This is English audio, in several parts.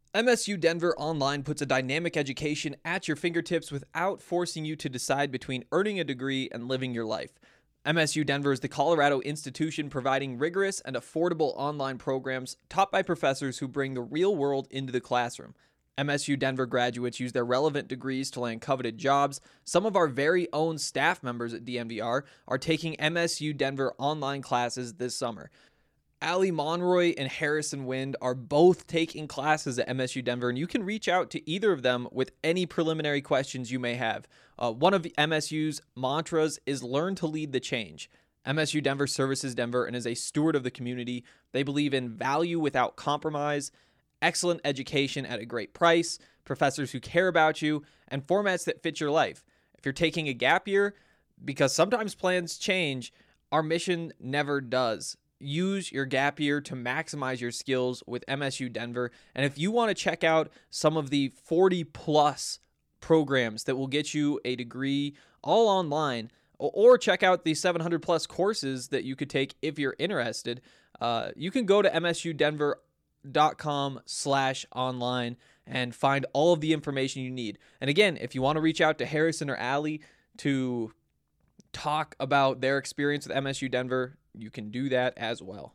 MSU Denver Online puts a dynamic education at your fingertips without forcing you to decide between earning a degree and living your life. MSU Denver is the Colorado institution providing rigorous and affordable online programs taught by professors who bring the real world into the classroom. MSU Denver graduates use their relevant degrees to land coveted jobs. Some of our very own staff members at DNVR are taking MSU Denver online classes this summer. Ali Monroy and Harrison Wind are both taking classes at MSU Denver, and you can reach out to either of them with any preliminary questions you may have. One of MSU's mantras is learn to lead the change. MSU Denver services Denver and is a steward of the community. They believe in value without compromise, excellent education at a great price, professors who care about you, and formats that fit your life. If you're taking a gap year, because sometimes plans change, our mission never does. Use your gap year to maximize your skills with MSU Denver. And if you want to check out some of the 40 plus programs that will get you a degree all online, or check out the 700 plus courses that you could take if you're interested, you can go to msudenver.com/online and find all of the information you need. And again, if you want to reach out to Harrison or Ali to talk about their experience with MSU Denver, you can do that as well.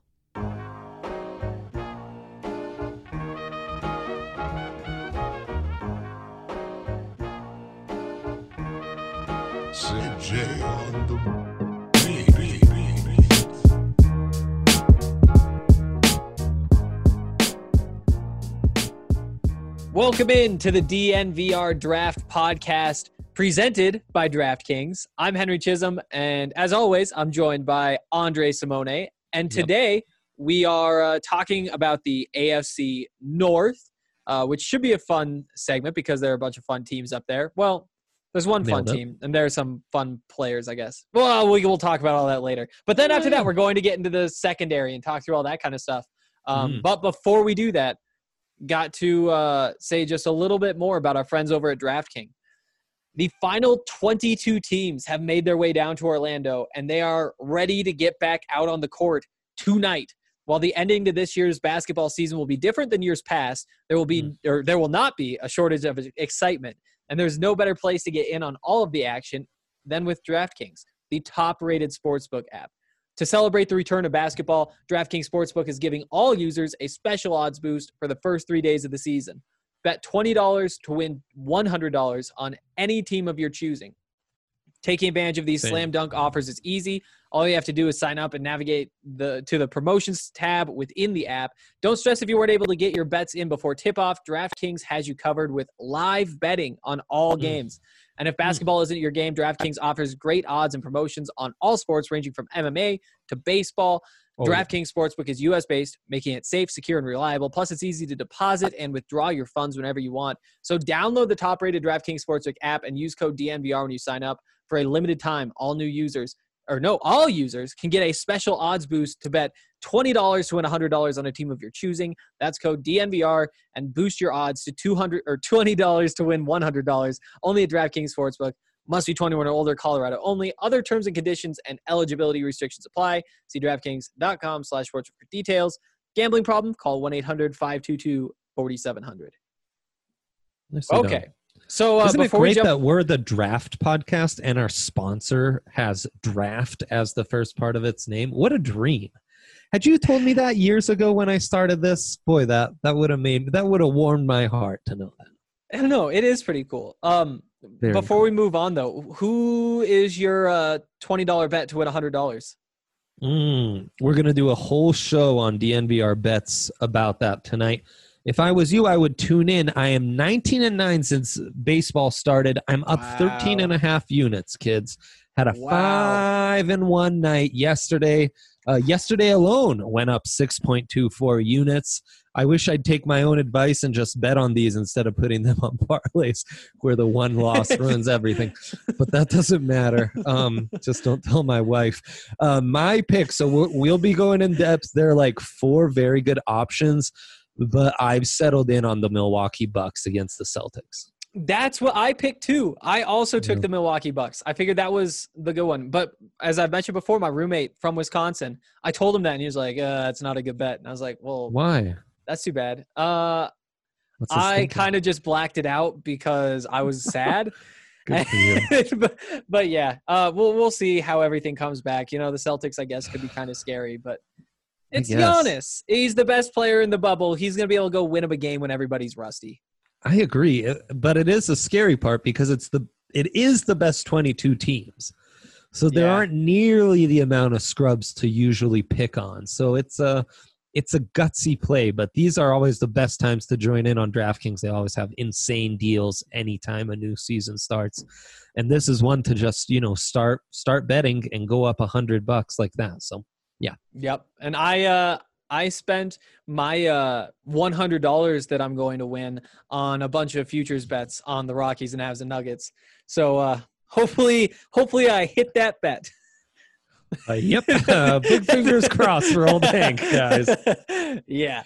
CJ on the Welcome in to the DNVR Draft Podcast, presented by DraftKings. I'm Henry Chisholm, and as always, I'm joined by Andre Simone. And today we are talking about the AFC North, which should be a fun segment because there are a bunch of fun teams up there. Well, there's one fun team, and there are some fun players, I guess. Well, we'll talk about all that later. But then after that, we're going to get into the secondary and talk through all that kind of stuff. But before we do that, got to say just a little bit more about our friends over at DraftKings. The final 22 teams have made their way down to Orlando, and they are ready to get back out on the court tonight. While the ending to this year's basketball season will be different than years past, there will not be a shortage of excitement, and there's no better place to get in on all of the action than with DraftKings, the top-rated sportsbook app. To celebrate the return of basketball, DraftKings Sportsbook is giving all users a special odds boost for the first 3 days of the season. Bet $20 to win $100 on any team of your choosing. Taking advantage of these slam dunk offers is easy. All you have to do is sign up and navigate to the promotions tab within the app. Don't stress if you weren't able to get your bets in before tip-off. DraftKings has you covered with live betting on all games. And if basketball isn't your game, DraftKings offers great odds and promotions on all sports ranging from MMA to baseball. DraftKings Sportsbook is U.S.-based, making it safe, secure, and reliable. Plus, it's easy to deposit and withdraw your funds whenever you want. So download the top-rated DraftKings Sportsbook app and use code DNVR when you sign up. For a limited time, all users can get a special odds boost to bet $20 to win $100 on a team of your choosing. That's code DNVR and boost your odds to $20 to win $100. Only at DraftKings Sportsbook. Must be 21 or older, Colorado only. Other terms and conditions and eligibility restrictions apply. See DraftKings.com/sportsbook for details. Gambling problem? Call 1-800-522-4700. Okay. So isn't it great that we're the Draft Podcast and our sponsor has Draft as the first part of its name? What a dream. Had you told me that years ago when I started this, boy, that would have warmed my heart to know that. I don't know. It is pretty cool. Before we move on, though, who is your $20 bet to win $100? We're going to do a whole show on DNVR bets about that tonight. If I was you, I would tune in. I am 19-9 since baseball started. I'm up 13.5 units, kids. Had a 5-1 night yesterday. Yesterday alone went up 6.24 units. I wish I'd take my own advice and just bet on these instead of putting them on parlays where the one loss ruins everything. But that doesn't matter. Just don't tell my wife. My pick, so we'll be going in depth. There are like 4 very good options, but I've settled in on the Milwaukee Bucks against the Celtics. That's what I picked too. I also took the Milwaukee Bucks. I figured that was the good one. But as I've mentioned before, my roommate from Wisconsin, I told him that, and he was like, it's not a good bet. And I was like, well, why? That's too bad. What's his I thinking? kind of just blacked it out because I was sad. Good for you. but yeah, we'll see how everything comes back. You know, the Celtics, I guess, could be kind of scary, but it's guess. Giannis. He's the best player in the bubble. He's gonna be able to go win him a game when everybody's rusty. I agree, but it is a scary part because it is the best 22 teams. So there Yeah. aren't nearly the amount of scrubs to usually pick on. So it's a gutsy play, but these are always the best times to join in on DraftKings. They always have insane deals anytime a new season starts. And this is one to just, start betting and go up $100 like that. So, yeah. Yep. And I spent my $100 that I'm going to win on a bunch of futures bets on the Rockies and Avs and Nuggets. So hopefully I hit that bet. Yep. Big fingers crossed for old Hank, guys. Yeah.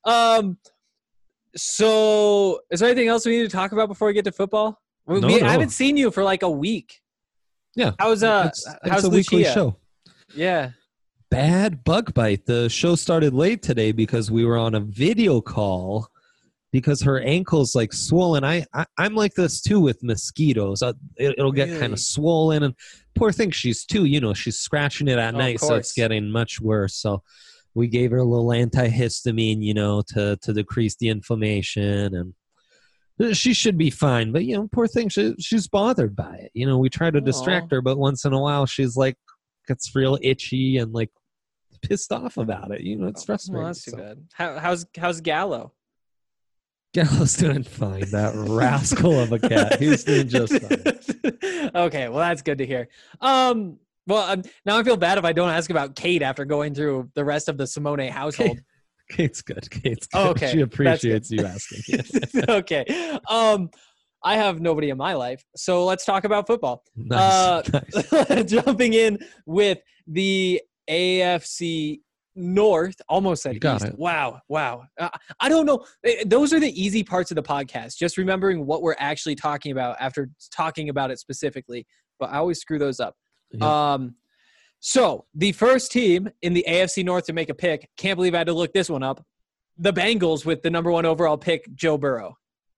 So is there anything else we need to talk about before we get to football? I No. haven't seen you for like a week. Yeah. How's It's how's a weekly Lucia? show. Yeah. Bad bug bite. The show started late today because we were on a video call because her ankle's like swollen. I'm like this too with mosquitoes. It'll get kind Really? of swollen, and poor thing, she's too. She's scratching it at Oh, of night, so it's course. getting much worse. So we gave her a little antihistamine, to decrease the inflammation, and she should be fine. But poor thing, she's bothered by it. We try to distract Aw. her, but once in a while, she's like gets real itchy and like pissed off about it. It's frustrating. Well, that's too So. bad. How's Gallo? Gallo's doing fine. That rascal of a cat. He's doing just fine. Okay, well that's good to hear. Now I feel bad if I don't ask about Kate after going through the rest of the Simone household. Kate's good. Kate's good. Oh, okay. She That's appreciates good. you asking. Okay. I have nobody in my life, so let's talk about football. Nice. Nice. Jumping in with the AFC North, almost said You got East. it. Wow. I don't know. Those are the easy parts of the podcast. Just remembering what we're actually talking about after talking about it specifically. But I always screw those up. Yeah. So the first team in the AFC North to make a pick, can't believe I had to look this one up. The Bengals with the number 1 overall pick, Joe Burrow.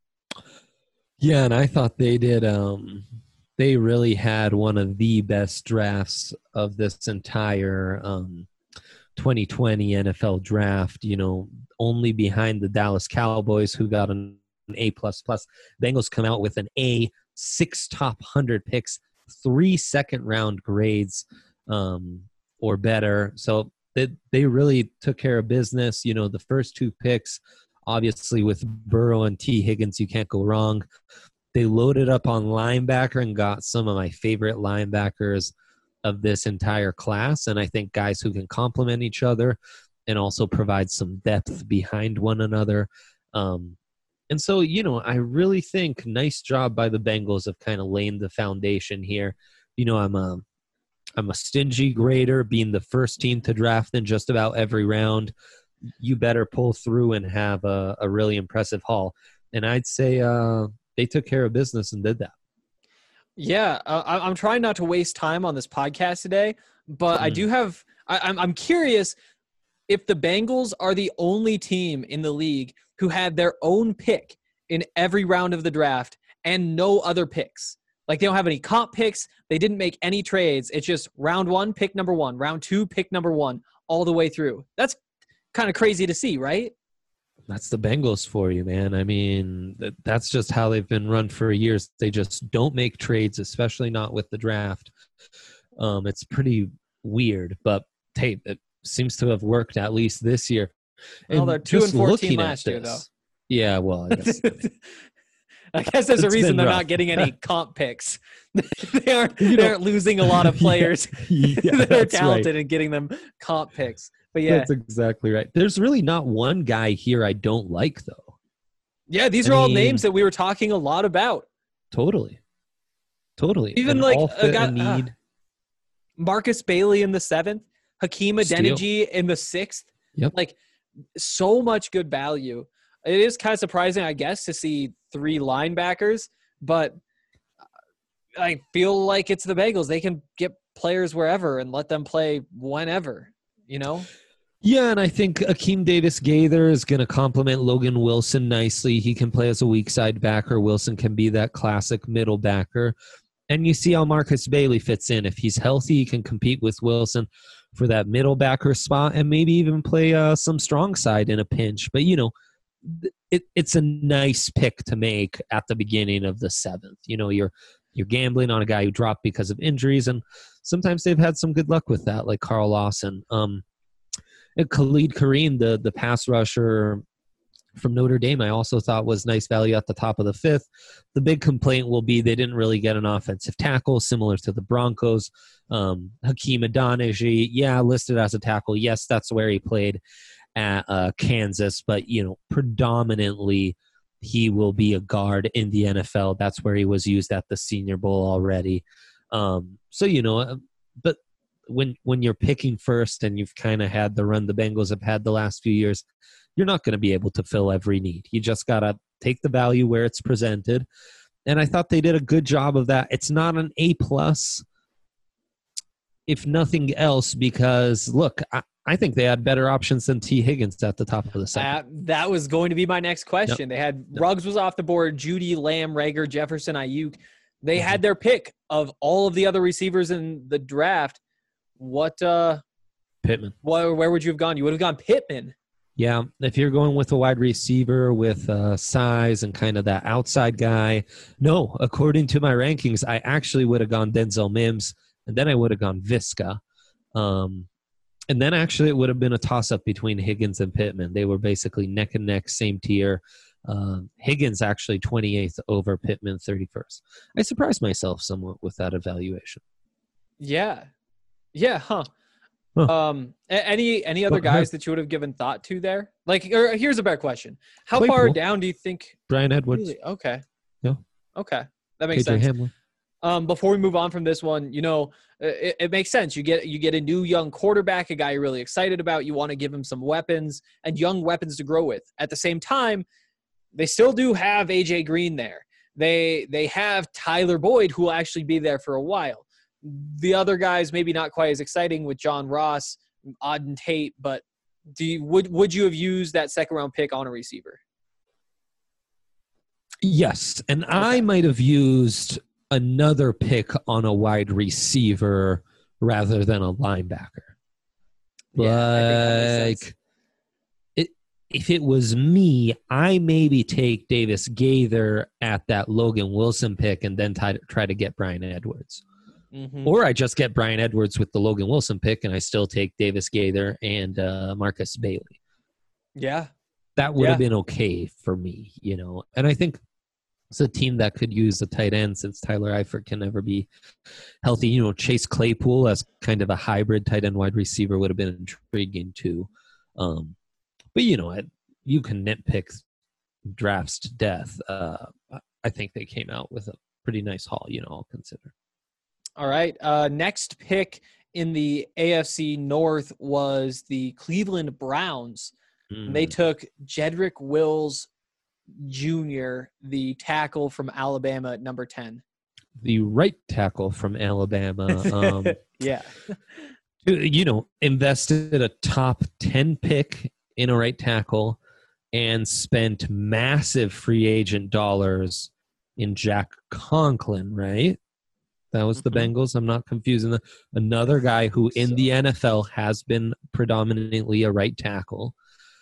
Yeah, and I thought they did. They really had one of the best drafts of this entire 2020 NFL draft. Only behind the Dallas Cowboys, who got an A++. Bengals come out with an A, 6 top 100 picks, 3 second-round grades or better. So they really took care of business. The first 2 picks, obviously with Burrow and T. Higgins, you can't go wrong. They loaded up on linebacker and got some of my favorite linebackers of this entire class. And I think guys who can complement each other and also provide some depth behind one another. And so, I really think nice job by the Bengals of kind of laying the foundation here. I'm a stingy grader, being the first team to draft in just about every round. You better pull through and have a really impressive haul. And I'd say they took care of business and did that. Yeah, I'm trying not to waste time on this podcast today, but I do have. I'm curious if the Bengals are the only team in the league who had their own pick in every round of the draft and no other picks. Like they don't have any comp picks. They didn't make any trades. It's just round 1, pick number 1, round 2, pick number 1, all the way through. That's kind of crazy to see, right? That's the Bengals for you, man. I mean, that's just how they've been run for years. They just don't make trades, especially not with the draft. It's pretty weird, but hey, it seems to have worked at least this year. Well, And they're 2 just and 14 looking at last year, this- Yeah, well, I guess. I guess there's a It's reason been they're rough. not getting any comp picks. they aren't losing a lot of players Yeah, that are that's talented right. and getting them comp picks. But yeah, That's exactly right. There's really not one guy here I don't like, though. yeah, these I are all mean- names that we were talking a lot about. Totally. Even And like all a fit guy, a need. Marcus Bailey in the 7th, Hakeem Steal. Adeniji in the 6th. Yep. Like so much good value. It is kind of surprising, I guess, to see 3 linebackers, but I feel like it's the Bengals. They can get players wherever and let them play whenever, you know? Yeah, and I think Akeem Davis-Gaither is going to complement Logan Wilson nicely. He can play as a weak side backer. Wilson can be that classic middle backer. And you see how Marcus Bailey fits in. If he's healthy, he can compete with Wilson for that middle backer spot and maybe even play some strong side in a pinch. But, it's a nice pick to make at the beginning of the seventh. You're gambling on a guy who dropped because of injuries, and sometimes they've had some good luck with that, like Carl Lawson. And Khalid Kareem, the pass rusher from Notre Dame, I also thought was nice value at the top of the fifth. The big complaint will be they didn't really get an offensive tackle, similar to the Broncos. Hakeem Adeniji, listed as a tackle. Yes, that's where he played at Kansas, but, predominantly he will be a guard in the NFL. That's where he was used at the Senior Bowl already. But when you're picking first and you've kind of had the run the Bengals have had the last few years, you're not going to be able to fill every need. You just got to take the value where it's presented. And I thought they did a good job of that. It's not an A+, if nothing else, because, look, I think they had better options than T. Higgins at the top of the second. That was going to be my next question. Yep. They had Ruggs was off the board, Judy, Lamb, Rager, Jefferson, Ayuk. They had their pick of all of the other receivers in the draft. Pittman. Where would you have gone? You would have gone Pittman. Yeah, if you're going with a wide receiver with size and kind of that outside guy. No, according to my rankings, I actually would have gone Denzel Mims, and then I would have gone Visca. And then actually it would have been a toss-up between Higgins and Pittman. They were basically neck and neck, same tier. Higgins actually 28th over Pittman 31st. I surprised myself somewhat with that evaluation. Yeah, huh. Any other guys that you would have given thought to there? Or here's a better question: how Claypool. far down do you think? Brian Edwards. Really? Okay. Yeah. Okay, that makes KJ sense. Hamler. Before we move on from this one, it makes sense. You get a new young quarterback, a guy you're really excited about. You want to give him some weapons and young weapons to grow with. At the same time, they still do have AJ Green there. They have Tyler Boyd, who will actually be there for a while. The other guys maybe not quite as exciting with John Ross, Auden Tate, but would you have used that second round pick on a receiver? Yes, and okay. I might have used another pick on a wide receiver rather than a linebacker. Yeah, if it was me, I maybe take Davis-Gaither at that Logan Wilson pick and then try to get Brian Edwards. Mm-hmm. Or I just get Brian Edwards with the Logan Wilson pick and I still take Davis-Gaither and Marcus Bailey. Yeah. That would have been okay for me, And I think it's a team that could use a tight end since Tyler Eifert can never be healthy. Chase Claypool as kind of a hybrid tight end wide receiver would have been intriguing too. But, you can nitpick drafts to death. I think they came out with a pretty nice haul, I'll consider. All right. Next pick in the AFC North was the Cleveland Browns. They took Jedrick Wills Jr., the tackle from Alabama at number 10. The right tackle from Alabama. Yeah. Invested a top 10 pick in a right tackle and spent massive free agent dollars in Jack Conklin, right? That was the Bengals. I'm not confusing another guy who in the NFL has been predominantly a right tackle.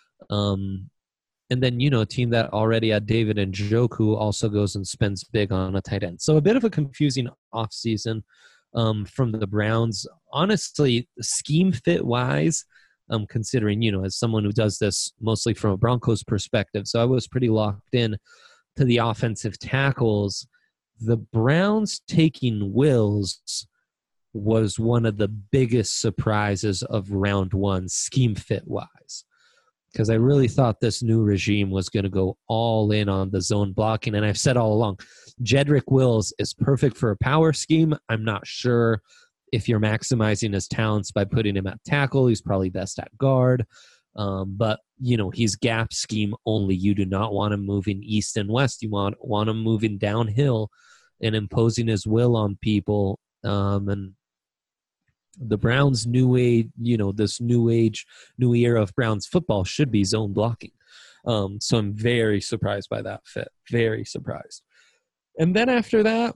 And then, a team that already had David Njoku also goes and spends big on a tight end. So a bit of a confusing offseason from the Browns. Honestly, scheme fit-wise, considering, as someone who does this mostly from a Broncos perspective, so I was pretty locked in to the offensive tackles. The Browns taking Wills was one of the biggest surprises of round one, scheme fit-wise. Because I really thought this new regime was going to go all in on the zone blocking. And I've said all along, Jedrick Wills is perfect for a power scheme. I'm not sure if you're maximizing his talents by putting him at tackle. He's probably best at guard. But, he's gap scheme only. You do not want him moving east and west. You want him moving downhill and imposing his will on people. And the Browns' new age, this new era of Browns football should be zone blocking. So I'm very surprised by that fit. Very surprised. And then after that,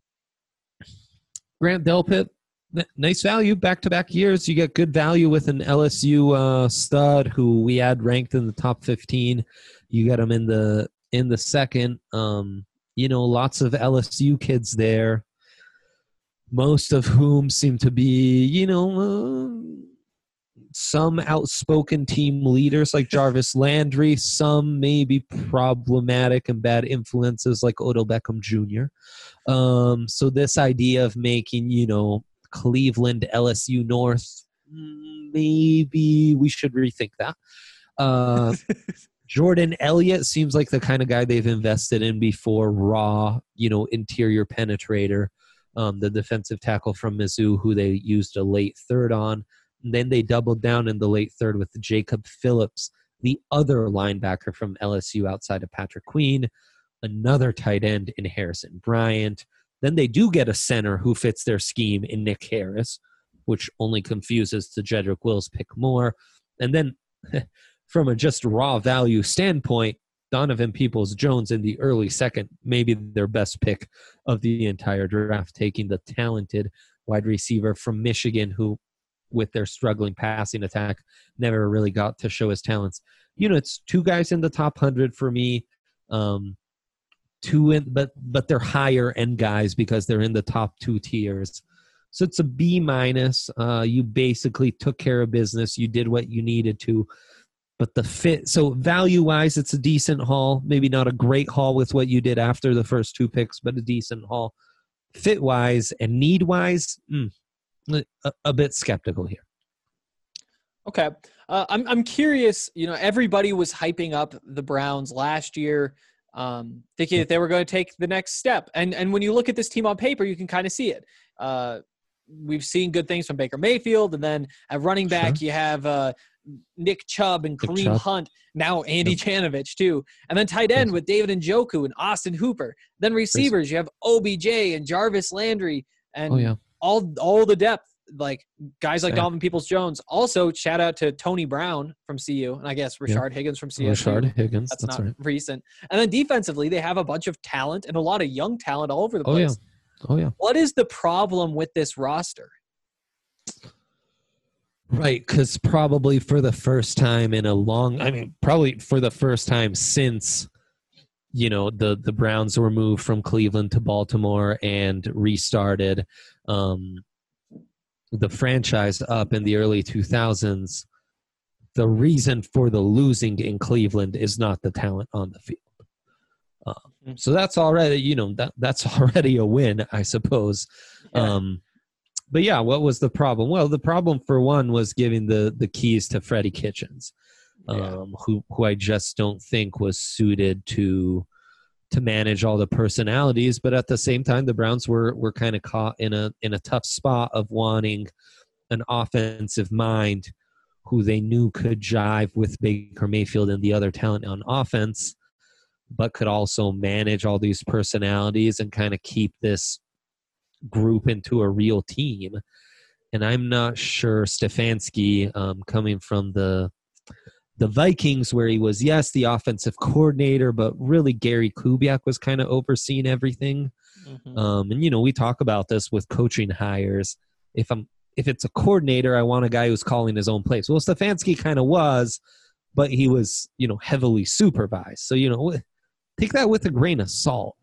Grant Delpit, nice value, back-to-back years. You get good value with an LSU stud who we had ranked in the top 15. You get him in the second. Lots of LSU kids there, most of whom seem to be, some outspoken team leaders like Jarvis Landry, some maybe problematic and bad influences like Odell Beckham Jr. So this idea of making, Cleveland, LSU North, maybe we should rethink that. Jordan Elliott seems like the kind of guy they've invested in before. Raw, interior penetrator, the defensive tackle from Mizzou, who they used a late third on. And then they doubled down in the late third with Jacob Phillips, the other linebacker from LSU outside of Patrick Queen, another tight end in Harrison Bryant. Then they do get a center who fits their scheme in Nick Harris, which only confuses the Jedrick Wills pick more. And then from a just raw value standpoint, Donovan Peoples-Jones in the early second, maybe their best pick of the entire draft, taking the talented wide receiver from Michigan who, with their struggling passing attack, never really got to show his talents. It's two guys in the top 100 for me. But they're higher end guys because they're in the top two tiers. So it's a B-. You basically took care of business. You did what you needed to. But the fit, so value-wise, it's a decent haul. Maybe not a great haul with what you did after the first two picks, but a decent haul. Fit-wise and need-wise, a bit skeptical here. Okay. I'm curious, everybody was hyping up the Browns last year, thinking that they were going to take the next step. And when you look at this team on paper, you can kind of see it. We've seen good things from Baker Mayfield, and then at running back, you have Nick Chubb and Kareem Hunt, now Andy Janovich too. And then tight end with David Njoku and Austin Hooper. Then receivers, you have OBJ and Jarvis Landry and all the depth, like guys like Donovan Peoples-Jones. Also, shout out to Tony Brown from CU, and I guess Rashard Higgins from CSU. Rashard Higgins, that's not right. Recent. And then defensively, they have a bunch of talent and a lot of young talent all over the place. Oh yeah. What is the problem with this roster? Right, because probably for the first time in probably for the first time since, the Browns were moved from Cleveland to Baltimore and restarted the franchise up in the early 2000s, the reason for the losing in Cleveland is not the talent on the field. So that's already, that's already a win, I suppose. Yeah. But yeah, what was the problem? Well, the problem for one was giving the keys to Freddie Kitchens, who I just don't think was suited to manage all the personalities. But at the same time, the Browns were kind of caught in a tough spot of wanting an offensive mind who they knew could jive with Baker Mayfield and the other talent on offense, but could also manage all these personalities and kind of keep this group into a real team. And I'm not sure Stefanski, coming from the Vikings, where he was, the offensive coordinator, but really Gary Kubiak was kind of overseeing everything. And we talk about this with coaching hires. If it's a coordinator, I want a guy who's calling his own plays. Well, Stefanski kind of was, but he was, heavily supervised. So, take that with a grain of salt.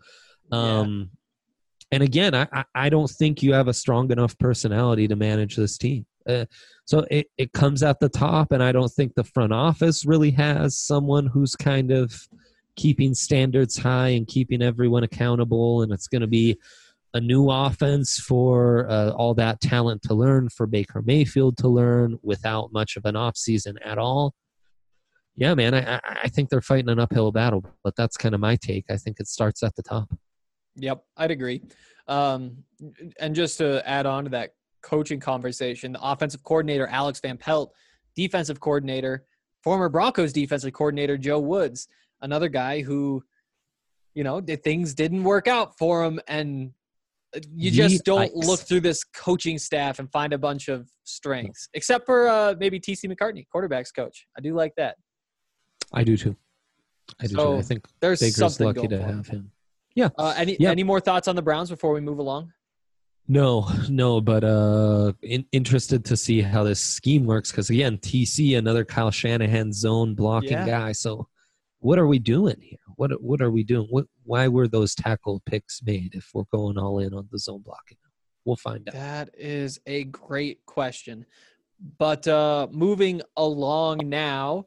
And again, I don't think you have a strong enough personality to manage this team. So it comes at the top, and I don't think the front office really has someone who's kind of keeping standards high and keeping everyone accountable. And it's going to be a new offense for all that talent to learn, for Baker Mayfield to learn without much of an offseason at all. Yeah, man, I think they're fighting an uphill battle, but that's kind of my take. I think it starts at the top. Yep, I'd agree. And just to add on to that coaching conversation, the offensive coordinator, Alex Van Pelt, defensive coordinator, former Broncos defensive coordinator, Joe Woods, another guy who, things didn't work out for him. And You just don't Yikes. look through this coaching staff and find a bunch of strengths, except for maybe T.C. McCartney, quarterback's coach. I do like that. I do too. I So, think there's Baker's something lucky going to for him. have him. Yeah. Any more thoughts on the Browns before we move along? No, but interested to see how this scheme works because, again, TC, another Kyle Shanahan zone blocking guy. So what are we doing here? What are we doing? Why were those tackle picks made if we're going all in on the zone blocking? We'll find out. That is a great question. But moving along now,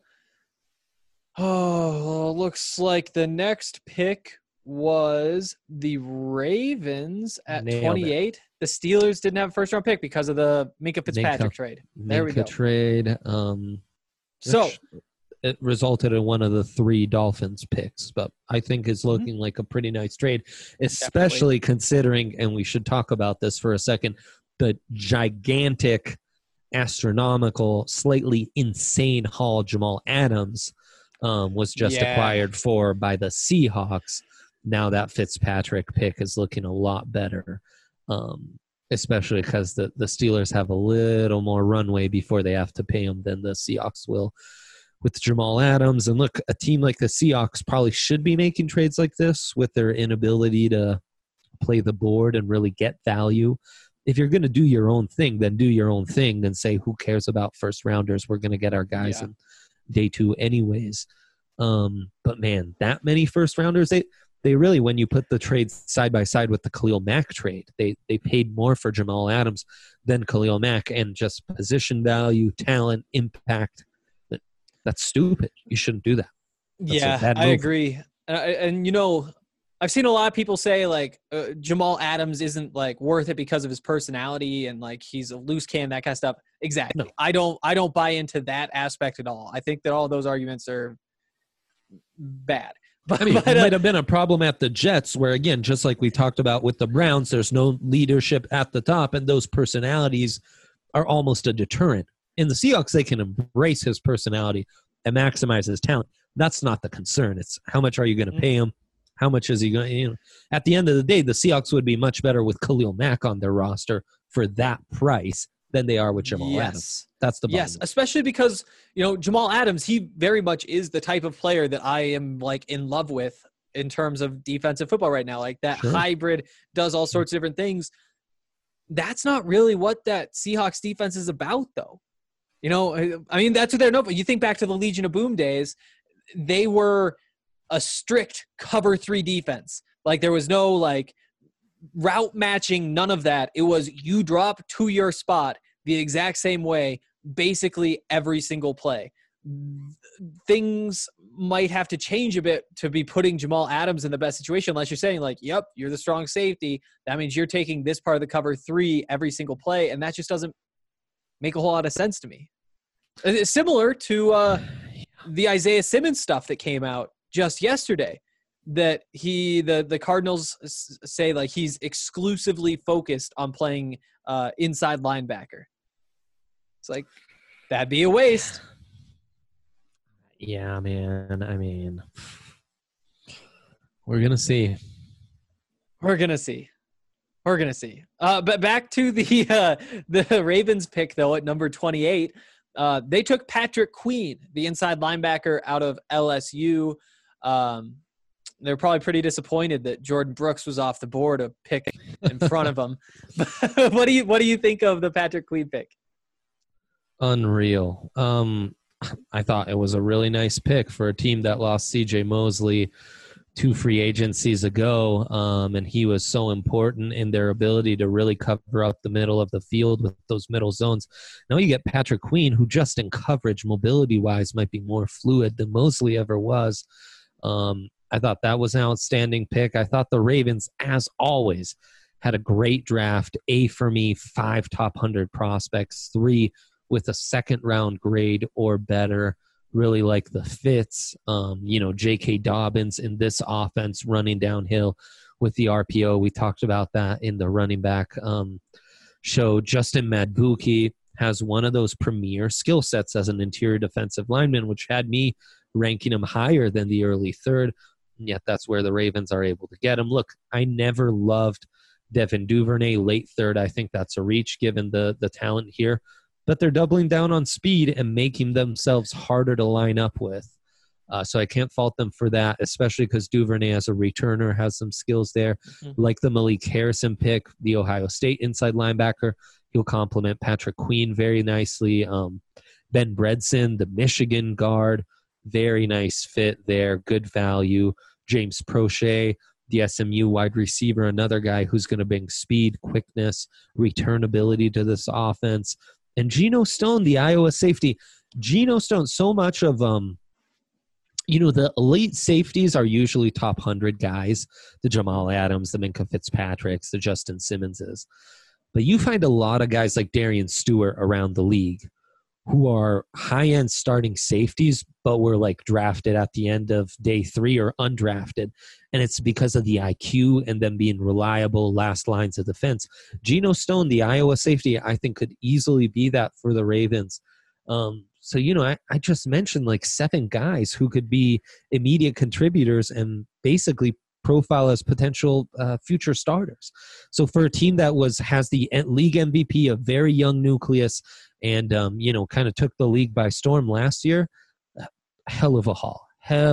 looks like the next pick was the Ravens at Nailed 28. The Steelers didn't have a first-round pick because of the Minkah Fitzpatrick trade. There we go. Trade. So it resulted in one of the 3 Dolphins picks, but I think it's looking like a pretty nice trade, especially considering, and we should talk about this for a second, the gigantic, astronomical, slightly insane haul Jamal Adams was just acquired for by the Seahawks. Now that Fitzpatrick pick is looking a lot better, especially because the Steelers have a little more runway before they have to pay him than the Seahawks will with Jamal Adams. And look, a team like the Seahawks probably should be making trades like this with their inability to play the board and really get value. If you're going to do your own thing, then do your own thing. Then say, who cares about first rounders? We're going to get our guys in day 2 anyways. But man, that many first rounders, they really, when you put the trades side by side with the Khalil Mack trade, they paid more for Jamal Adams than Khalil Mack, and just position value, talent, impact. That's stupid. You shouldn't do that. That's I agree. And I've seen a lot of people say like Jamal Adams isn't like worth it because of his personality and like he's a loose cannon, that kind of stuff. Exactly. No. I don't buy into that aspect at all. I think that all those arguments are bad. But it might have been a problem at the Jets where, again, just like we talked about with the Browns, there's no leadership at the top, and those personalities are almost a deterrent. In the Seahawks, they can embrace his personality and maximize his talent. That's not the concern. It's how much are you going to pay him? How much is he going to, at the end of the day, the Seahawks would be much better with Khalil Mack on their roster for that price than they are with Jamal Adams. That's the bottom. Yes, especially because, Jamal Adams, he very much is the type of player that I am like in love with in terms of defensive football right now. Like that hybrid, does all sorts of different things. That's not really what that Seahawks defense is about, though. I mean, that's what they're known for. You think back to the Legion of Boom days, they were a strict cover 3 defense. Like there was no like route matching, none of that. It was you drop to your spot the exact same way, basically every single play. Things might have to change a bit to be putting Jamal Adams in the best situation, unless you're saying like, yep, you're the strong safety. That means you're taking this part of the cover 3 every single play. And that just doesn't make a whole lot of sense to me. It's similar to the Isaiah Simmons stuff that came out just yesterday, that the Cardinals say like he's exclusively focused on playing inside linebacker. It's like, that'd be a waste. Yeah, man. I mean, we're going to see. We're going to see. But back to the Ravens pick, though, at number 28. They took Patrick Queen, the inside linebacker out of LSU. They're probably pretty disappointed that Jordan Brooks was off the board, a pick in front of them. What do you think of the Patrick Queen pick? Unreal. I thought it was a really nice pick for a team that lost C.J. Mosley 2 free agencies ago, and he was so important in their ability to really cover up the middle of the field with those middle zones. Now you get Patrick Queen, who just in coverage, mobility-wise, might be more fluid than Mosley ever was. I thought that was an outstanding pick. I thought the Ravens, as always, had a great draft. A for me, 5 top 100 prospects, 3 with a second-round grade or better. Really like the fits. J.K. Dobbins in this offense running downhill with the RPO. We talked about that in the running back show. Justin Madubuike has one of those premier skill sets as an interior defensive lineman, which had me ranking him higher than the early 3rd. And yet that's where the Ravens are able to get him. Look, I never loved Devin Duvernay, late third. I think that's a reach given the talent here. But they're doubling down on speed and making themselves harder to line up with. So I can't fault them for that, especially because Duvernay as a returner has some skills there. Like the Malik Harrison pick, the Ohio State inside linebacker. He'll complement Patrick Queen very nicely. Ben Bredson, the Michigan guard, very nice fit there, good value. James Prochet, the SMU wide receiver, another guy who's going to bring speed, quickness, return ability to this offense. And Geno Stone, the Iowa safety. Geno Stone, so much of the elite safeties are usually top 100 guys, the Jamal Adams, the Minkah Fitzpatricks, the Justin Simmonses. But you find a lot of guys like Darian Stewart around the league who are high-end starting safeties, but were like drafted at the end of day 3 or undrafted. And it's because of the IQ and them being reliable last lines of defense. Geno Stone, the Iowa safety, I think could easily be that for the Ravens. So, I just mentioned like 7 guys who could be immediate contributors and basically profile as potential future starters. So for a team that has the league MVP, a very young nucleus, and, kind of took the league by storm last year, hell of a haul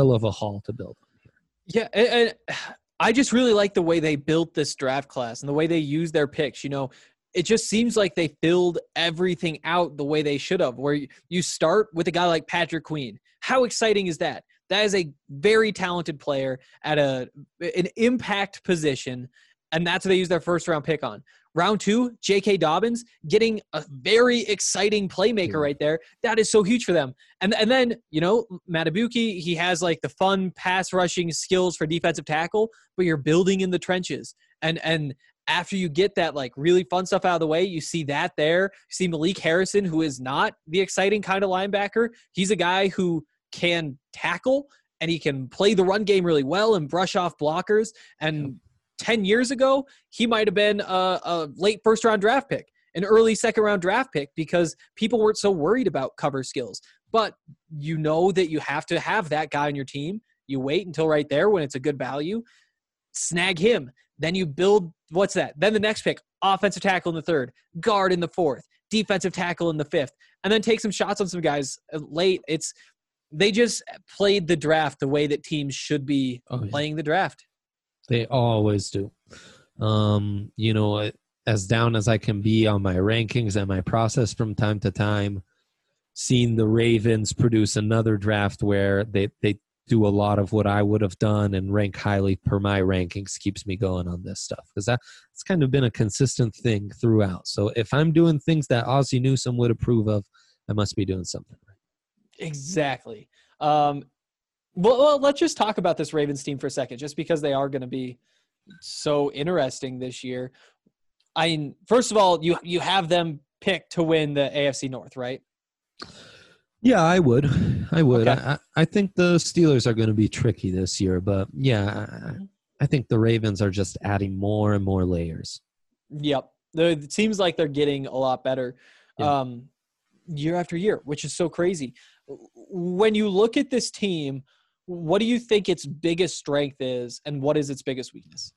to build on here. Yeah, and I just really like the way they built this draft class and the way they use their picks. It just seems like they filled everything out the way they should have, where you start with a guy like Patrick Queen. How exciting is that? That is a very talented player at an impact position, and that's what they use their first-round pick on. Round 2, J.K. Dobbins getting a very exciting playmaker right there. That is so huge for them. And then, Matabuki, he has like the fun pass rushing skills for defensive tackle, but you're building in the trenches. And after you get that like really fun stuff out of the way, you see that there. You see Malik Harrison, who is not the exciting kind of linebacker. He's a guy who can tackle and he can play the run game really well and brush off blockers. And 10 years ago, he might have been a late first-round draft pick, an early second-round draft pick, because people weren't so worried about cover skills. But you know that you have to have that guy on your team. You wait until right there when it's a good value, snag him. Then you build, what's that? Then the next pick, offensive tackle in the 3rd, guard in the 4th, defensive tackle in the 5th, and then take some shots on some guys late. They just played the draft the way that teams should be playing the draft. They always do. As down as I can be on my rankings and my process from time to time, seeing the Ravens produce another draft where they do a lot of what I would have done and rank highly per my rankings keeps me going on this stuff, because that's kind of been a consistent thing throughout. So if I'm doing things that Ozzie Newsome would approve of, I must be doing something right. Exactly. Well, let's just talk about this Ravens team for a second, just because they are going to be so interesting this year. First of all, you have them picked to win the AFC North, right? Yeah, I would. Okay. I think the Steelers are going to be tricky this year, but yeah, I think the Ravens are just adding more and more layers. Yep. It seems like they're getting a lot better year after year, which is so crazy. When you look at this team, what do you think its biggest strength is, and what is its biggest weakness?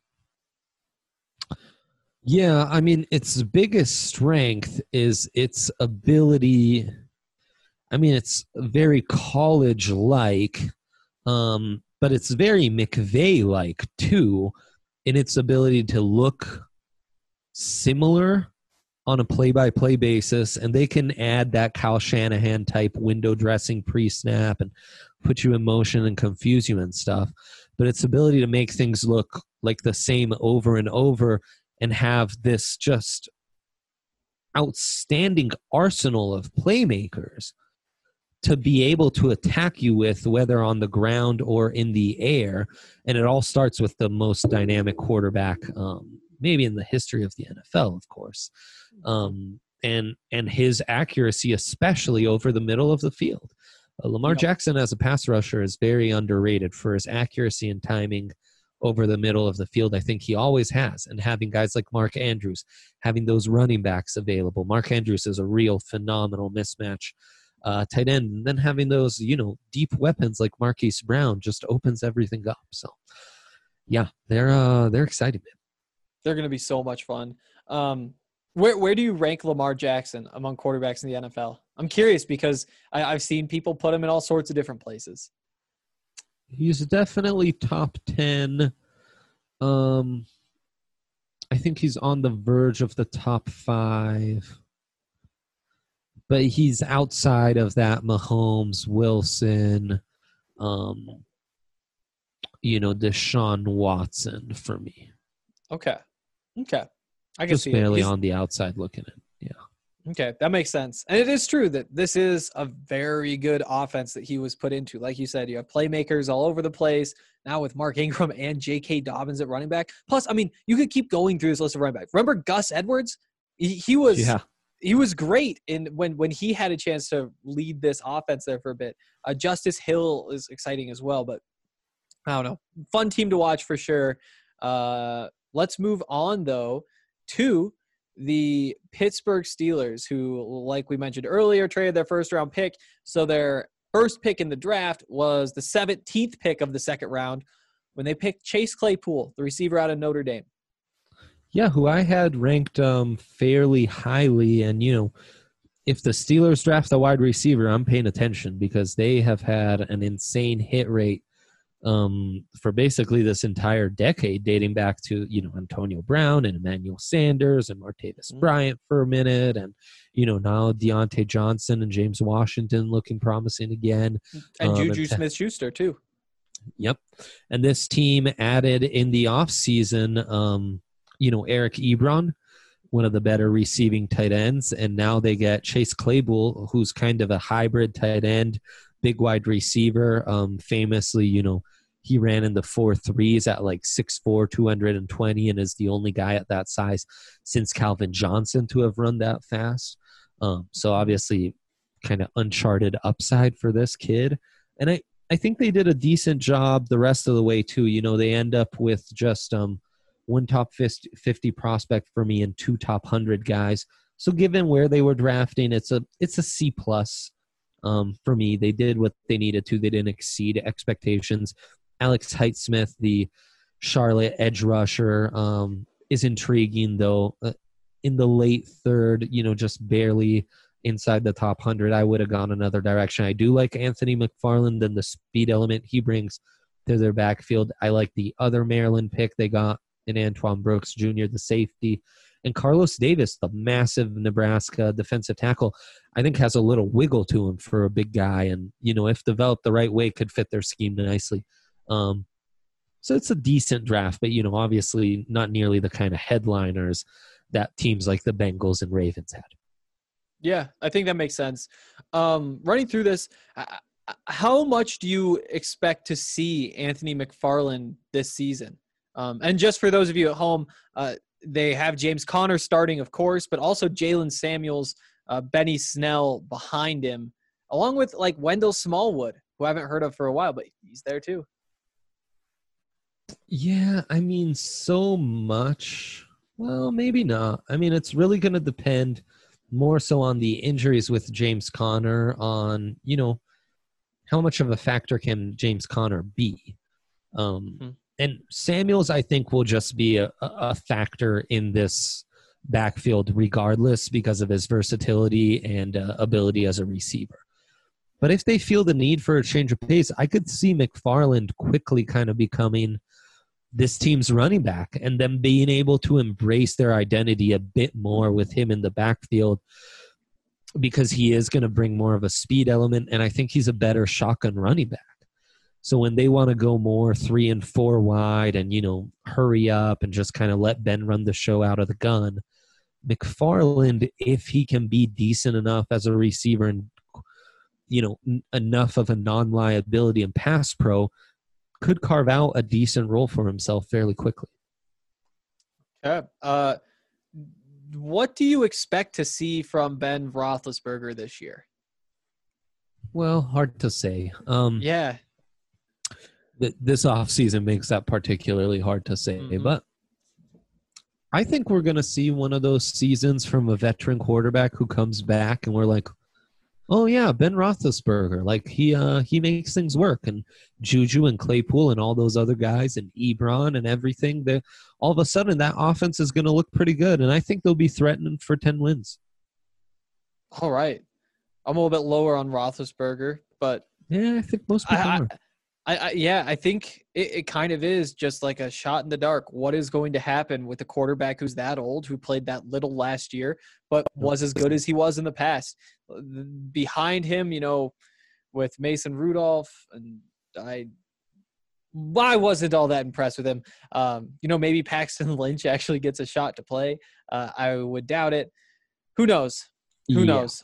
Yeah, its biggest strength is its ability. It's very college-like, but it's very McVay-like, too, in its ability to look similar on a play-by-play basis, and they can add that Kyle Shanahan-type window dressing pre-snap and put you in motion and confuse you and stuff. But its ability to make things look like the same over and over and have this just outstanding arsenal of playmakers to be able to attack you with, whether on the ground or in the air. And it all starts with the most dynamic quarterback, maybe in the history of the NFL, of course. And his accuracy, especially over the middle of the field. Lamar Jackson as a pass rusher is very underrated for his accuracy and timing over the middle of the field. I think he always has. And having guys like Mark Andrews, having those running backs available. Mark Andrews is a real phenomenal mismatch tight end. And then having those, deep weapons like Marquise Brown just opens everything up. So, yeah, they're excited, man. They're going to be so much fun. Where do you rank Lamar Jackson among quarterbacks in the NFL? I'm curious because I've seen people put him in all sorts of different places. He's definitely top 10. I think he's on the verge of the top 5. But he's outside of that Mahomes, Wilson, Deshaun Watson for me. Okay. I can just see barely it. on the outside looking in. Yeah. Okay, that makes sense. And it is true that this is a very good offense that he was put into. Like you said, you have playmakers all over the place. Now with Mark Ingram and J.K. Dobbins at running back. Plus, I mean, you could keep going through this list of running backs. Remember Gus Edwards? He was great when he had a chance to lead this offense there for a bit. Justice Hill is exciting as well, but I don't know. Fun team to watch for sure. Let's move on, though, to the Pittsburgh Steelers, who, like we mentioned earlier, traded their first-round pick. So their first pick in the draft was the 17th pick of the second round when they picked Chase Claypool, the receiver out of Notre Dame. Yeah, who I had ranked fairly highly. And, if the Steelers draft a wide receiver, I'm paying attention because they have had an insane hit rate for basically this entire decade, dating back to, Antonio Brown and Emmanuel Sanders and Martavis Bryant for a minute. And, now Deontay Johnson and James Washington looking promising again. And Juju Smith-Schuster, too. Yep. And this team added in the offseason, Eric Ebron, one of the better receiving tight ends. And now they get Chase Claypool, who's kind of a hybrid tight end, big wide receiver. Famously, he ran in the 4.3s at like 6'4", 220, and is the only guy at that size since Calvin Johnson to have run that fast. So obviously kind of uncharted upside for this kid. And I think they did a decent job the rest of the way too. They end up with just one top 50 prospect for me and 2 top 100 guys. So given where they were drafting, it's a C+. For me, they did what they needed to. They didn't exceed expectations. Alex Highsmith, the Charlotte edge rusher, is intriguing, though. In the late third, just barely inside the top 100, I would have gone another direction. I do like Anthony McFarland and the speed element he brings to their backfield. I like the other Maryland pick they got in Antoine Brooks Jr., the safety. And Carlos Davis, the massive Nebraska defensive tackle, I think has a little wiggle to him for a big guy. And, if developed the right way, could fit their scheme nicely. So it's a decent draft, but, obviously not nearly the kind of headliners that teams like the Bengals and Ravens had. Yeah, I think that makes sense. Running through this, how much do you expect to see Anthony McFarland this season? And just for those of you at home, they have James Conner starting, of course, but also Jalen Samuels, Benny Snell behind him, along with like Wendell Smallwood, who I haven't heard of for a while, but he's there too. Yeah, I mean, so much. Well, maybe not. I mean, it's really going to depend more so on the injuries with James Conner, on, how much of a factor can James Conner be? And Samuels, I think, will just be a factor in this backfield regardless because of his versatility and ability as a receiver. But if they feel the need for a change of pace, I could see McFarland quickly kind of becoming this team's running back and them being able to embrace their identity a bit more with him in the backfield because he is going to bring more of a speed element, and I think he's a better shotgun running back. So when they want to go more 3 and 4 wide and, hurry up and just kind of let Ben run the show out of the gun, McFarland, if he can be decent enough as a receiver and, enough of a non-liability and pass pro, could carve out a decent role for himself fairly quickly. Okay. What do you expect to see from Ben Roethlisberger this year? Well, hard to say. Yeah. This offseason makes that particularly hard to say. Mm-hmm. But I think we're going to see one of those seasons from a veteran quarterback who comes back and we're like, Oh yeah, Ben Roethlisberger. Like he makes things work, and Juju and Claypool and all those other guys and Ebron and everything. They all of a sudden that offense is going to look pretty good, and I think they'll be threatening for 10 wins. All right. I'm a little bit lower on Roethlisberger, but Yeah, I think most people are. I think it kind of is just like a shot in the dark. What is going to happen with a quarterback who's that old, who played that little last year, but was as good as he was in the past? Behind him, with Mason Rudolph, and I wasn't all that impressed with him. Maybe Paxton Lynch actually gets a shot to play. I would doubt it. Who knows? Who knows?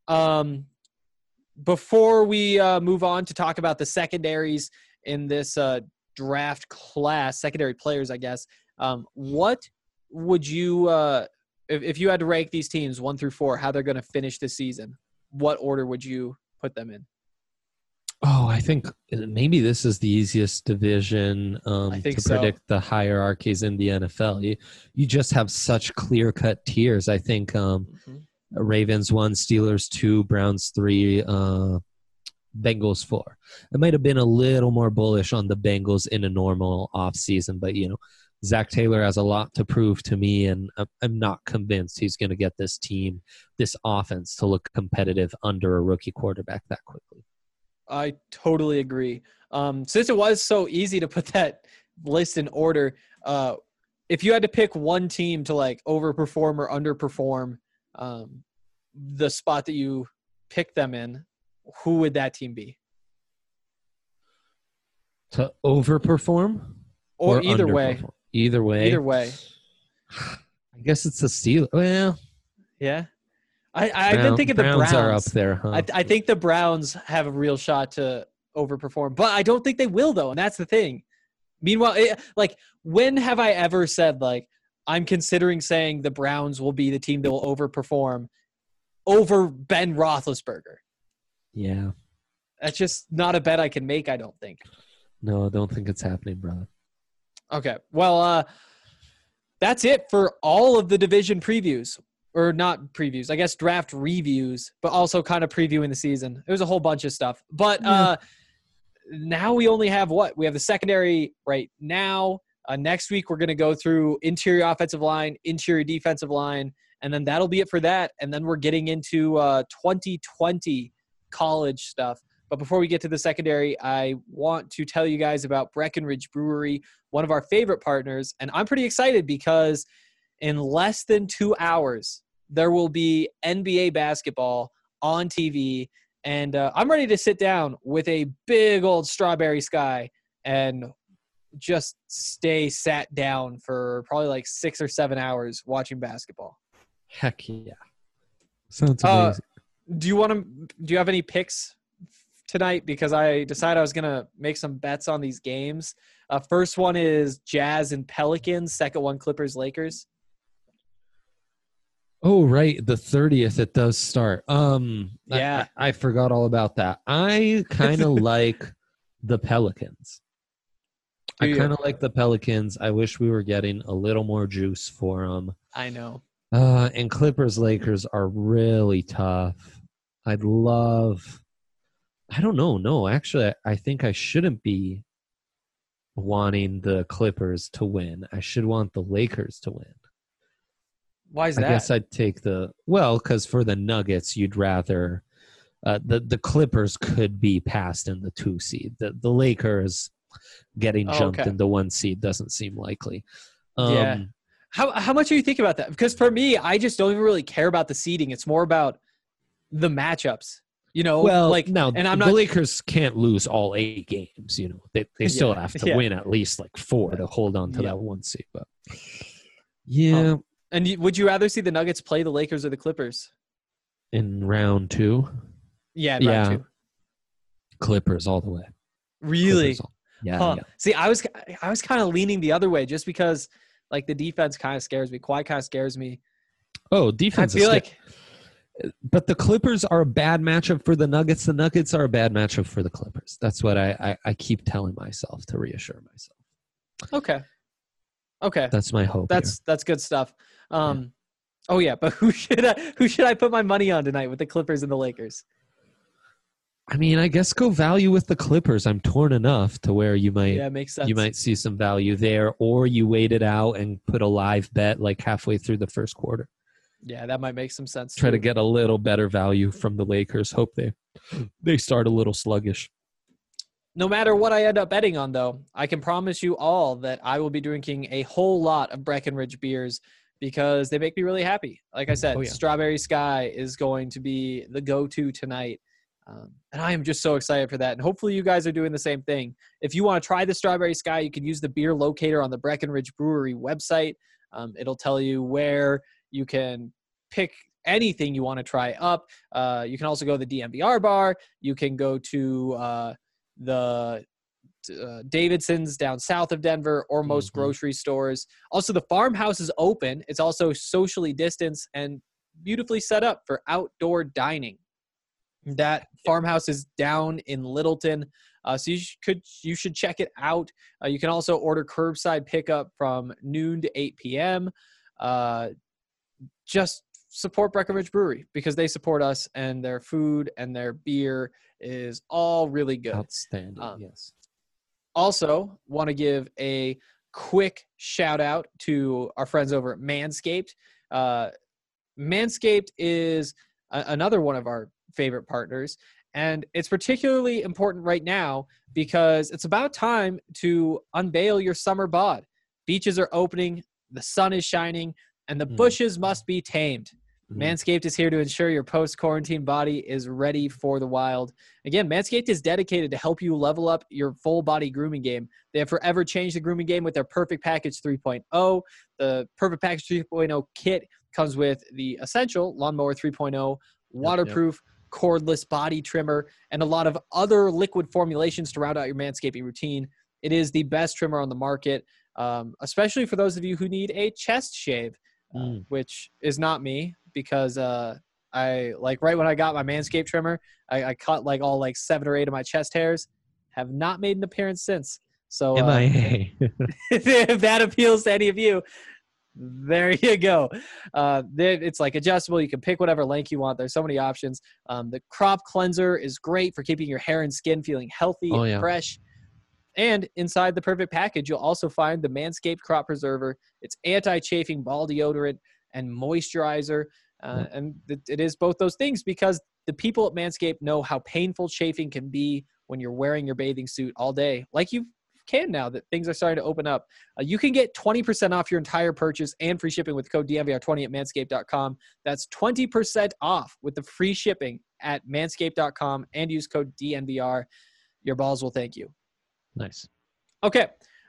Before we move on to talk about the secondaries in this draft class, secondary players, I guess, what would you, if you had to rank these teams 1 through 4, how they're going to finish this season, what order would you put them in? Oh, I think maybe this is the easiest division to predict the hierarchies in the NFL. You just have such clear-cut tiers. I think Ravens 1, Steelers 2, Browns 3, Bengals 4. I might have been a little more bullish on the Bengals in a normal offseason, but, Zach Taylor has a lot to prove to me, and I'm not convinced he's going to get this team, this offense, to look competitive under a rookie quarterback that quickly. I totally agree. Since it was so easy to put that list in order, if you had to pick one team to like overperform or underperform the spot that you picked them in, who would that team be? To overperform? Or either way. Either way. Either way. I guess it's the Steelers. Well, yeah. I've been thinking the Browns are up there, huh? I think the Browns have a real shot to overperform, but I don't think they will, though, and that's the thing. Meanwhile, when have I ever said, like, I'm considering saying the Browns will be the team that will overperform over Ben Roethlisberger? Yeah. That's just not a bet I can make, I don't think. No, I don't think it's happening, brother. Okay. Well, that's it for all of the division previews. Or not previews, I guess draft reviews, but also kind of previewing the season. It was a whole bunch of stuff. But now we only have what? We have the secondary right now. Next week, we're going to go through interior offensive line, interior defensive line, and then that'll be it for that. And then we're getting into 2020 college stuff. But before we get to the secondary, I want to tell you guys about Breckenridge Brewery, one of our favorite partners. And I'm pretty excited because in less than 2 hours, there will be NBA basketball on TV. And I'm ready to sit down with a big old strawberry sky and just stay sat down for probably like 6 or 7 hours watching basketball. Heck yeah. Sounds amazing. Do you have any picks tonight? Because I decided I was going to make some bets on these games. First one is Jazz and Pelicans. Second one, Clippers, Lakers. Oh, right. The 30th, it does start. Yeah. I forgot all about that. I kind of like the Pelicans. I kind of like the Pelicans. I wish we were getting a little more juice for them. I know. And Clippers, Lakers are really tough. I don't know. No, actually, I think I shouldn't be wanting the Clippers to win. I should want the Lakers to win. Why is that? I guess I'd take because for the Nuggets, you'd rather the Clippers could be passed in the 2 seed. The Lakers getting jumped in the 1 seed doesn't seem likely. Yeah. How much are you thinking about that? Because for me, I just don't even really care about the seeding. It's more about the matchups. The Lakers can't lose all 8 games. They still have to win at least like 4 to hold on to that 1 seed. But yeah. And would you rather see the Nuggets play the Lakers or the Clippers? In round 2? Yeah, round 2. Clippers all the way. Really? Yeah. See, I was kind of leaning the other way just because like the defense kind of scares me. Kawhi kind of scares me. Oh, defense. I feel like but the Clippers are a bad matchup for the Nuggets. The Nuggets are a bad matchup for the Clippers. That's what I keep telling myself to reassure myself. Okay. That's my hope. That's good stuff. Oh yeah, but who should I put my money on tonight with the Clippers and the Lakers? I mean, I guess go value with the Clippers. I'm torn enough to where you makes sense. might see some value there, or you wait it out and put a live bet like halfway through the first quarter. Yeah, that might make some sense. Try to get a little better value from the Lakers. Hope they start a little sluggish. No matter what I end up betting on, though, I can promise you all that I will be drinking a whole lot of Breckenridge beers because they make me really happy. Like I said, Strawberry Sky is going to be the go-to tonight. And I am just so excited for that. And hopefully you guys are doing the same thing. If you want to try the Strawberry Sky, you can use the beer locator on the Breckenridge Brewery website. It'll tell you where you can pick anything you want to try up. You can also go to the DNVR bar. You can go to the Davidson's down south of Denver or most grocery stores. Also, the farmhouse is open. It's also socially distanced and beautifully set up for outdoor dining. That farmhouse is down in Littleton, so you should check it out. You can also order curbside pickup from noon to 8 p.m. Just support Breckenridge Brewery because they support us, and their food and their beer is all really good. Outstanding, yes. Also, want to give a quick shout out to our friends over at Manscaped. Manscaped is another one of our favorite partners, and it's particularly important right now because it's about time to unveil your summer bod. Beaches are opening, the sun is shining, and the bushes must be tamed. Manscaped is here to ensure your post-quarantine body is ready for the wild. Again, Manscaped is dedicated to help you level up your full-body grooming game. They have forever changed the grooming game with their Perfect Package 3.0. The Perfect Package 3.0 kit comes with the Essential Lawnmower 3.0, waterproof, cordless body trimmer, and a lot of other liquid formulations to round out your manscaping routine. It is the best trimmer on the market, especially for those of you who need a chest shave, which is not me because I right when I got my Manscaped trimmer, I cut all 7 or 8 of my chest hairs, have not made an appearance since. So MIA. if that appeals to any of you, there you go. It's adjustable. You can pick whatever length you want. There's so many options. The crop cleanser is great for keeping your hair and skin feeling healthy and fresh. And inside the Perfect Package, you'll also find the Manscaped Crop Preserver. It's anti-chafing ball deodorant and moisturizer. And it is both those things because the people at Manscaped know how painful chafing can be when you're wearing your bathing suit all day. Like you can now that things are starting to open up. You can get 20% off your entire purchase and free shipping with code DNVR20 at manscaped.com. That's 20% off with the free shipping at manscaped.com and use code DNVR. Your balls will thank you. Nice. Okay.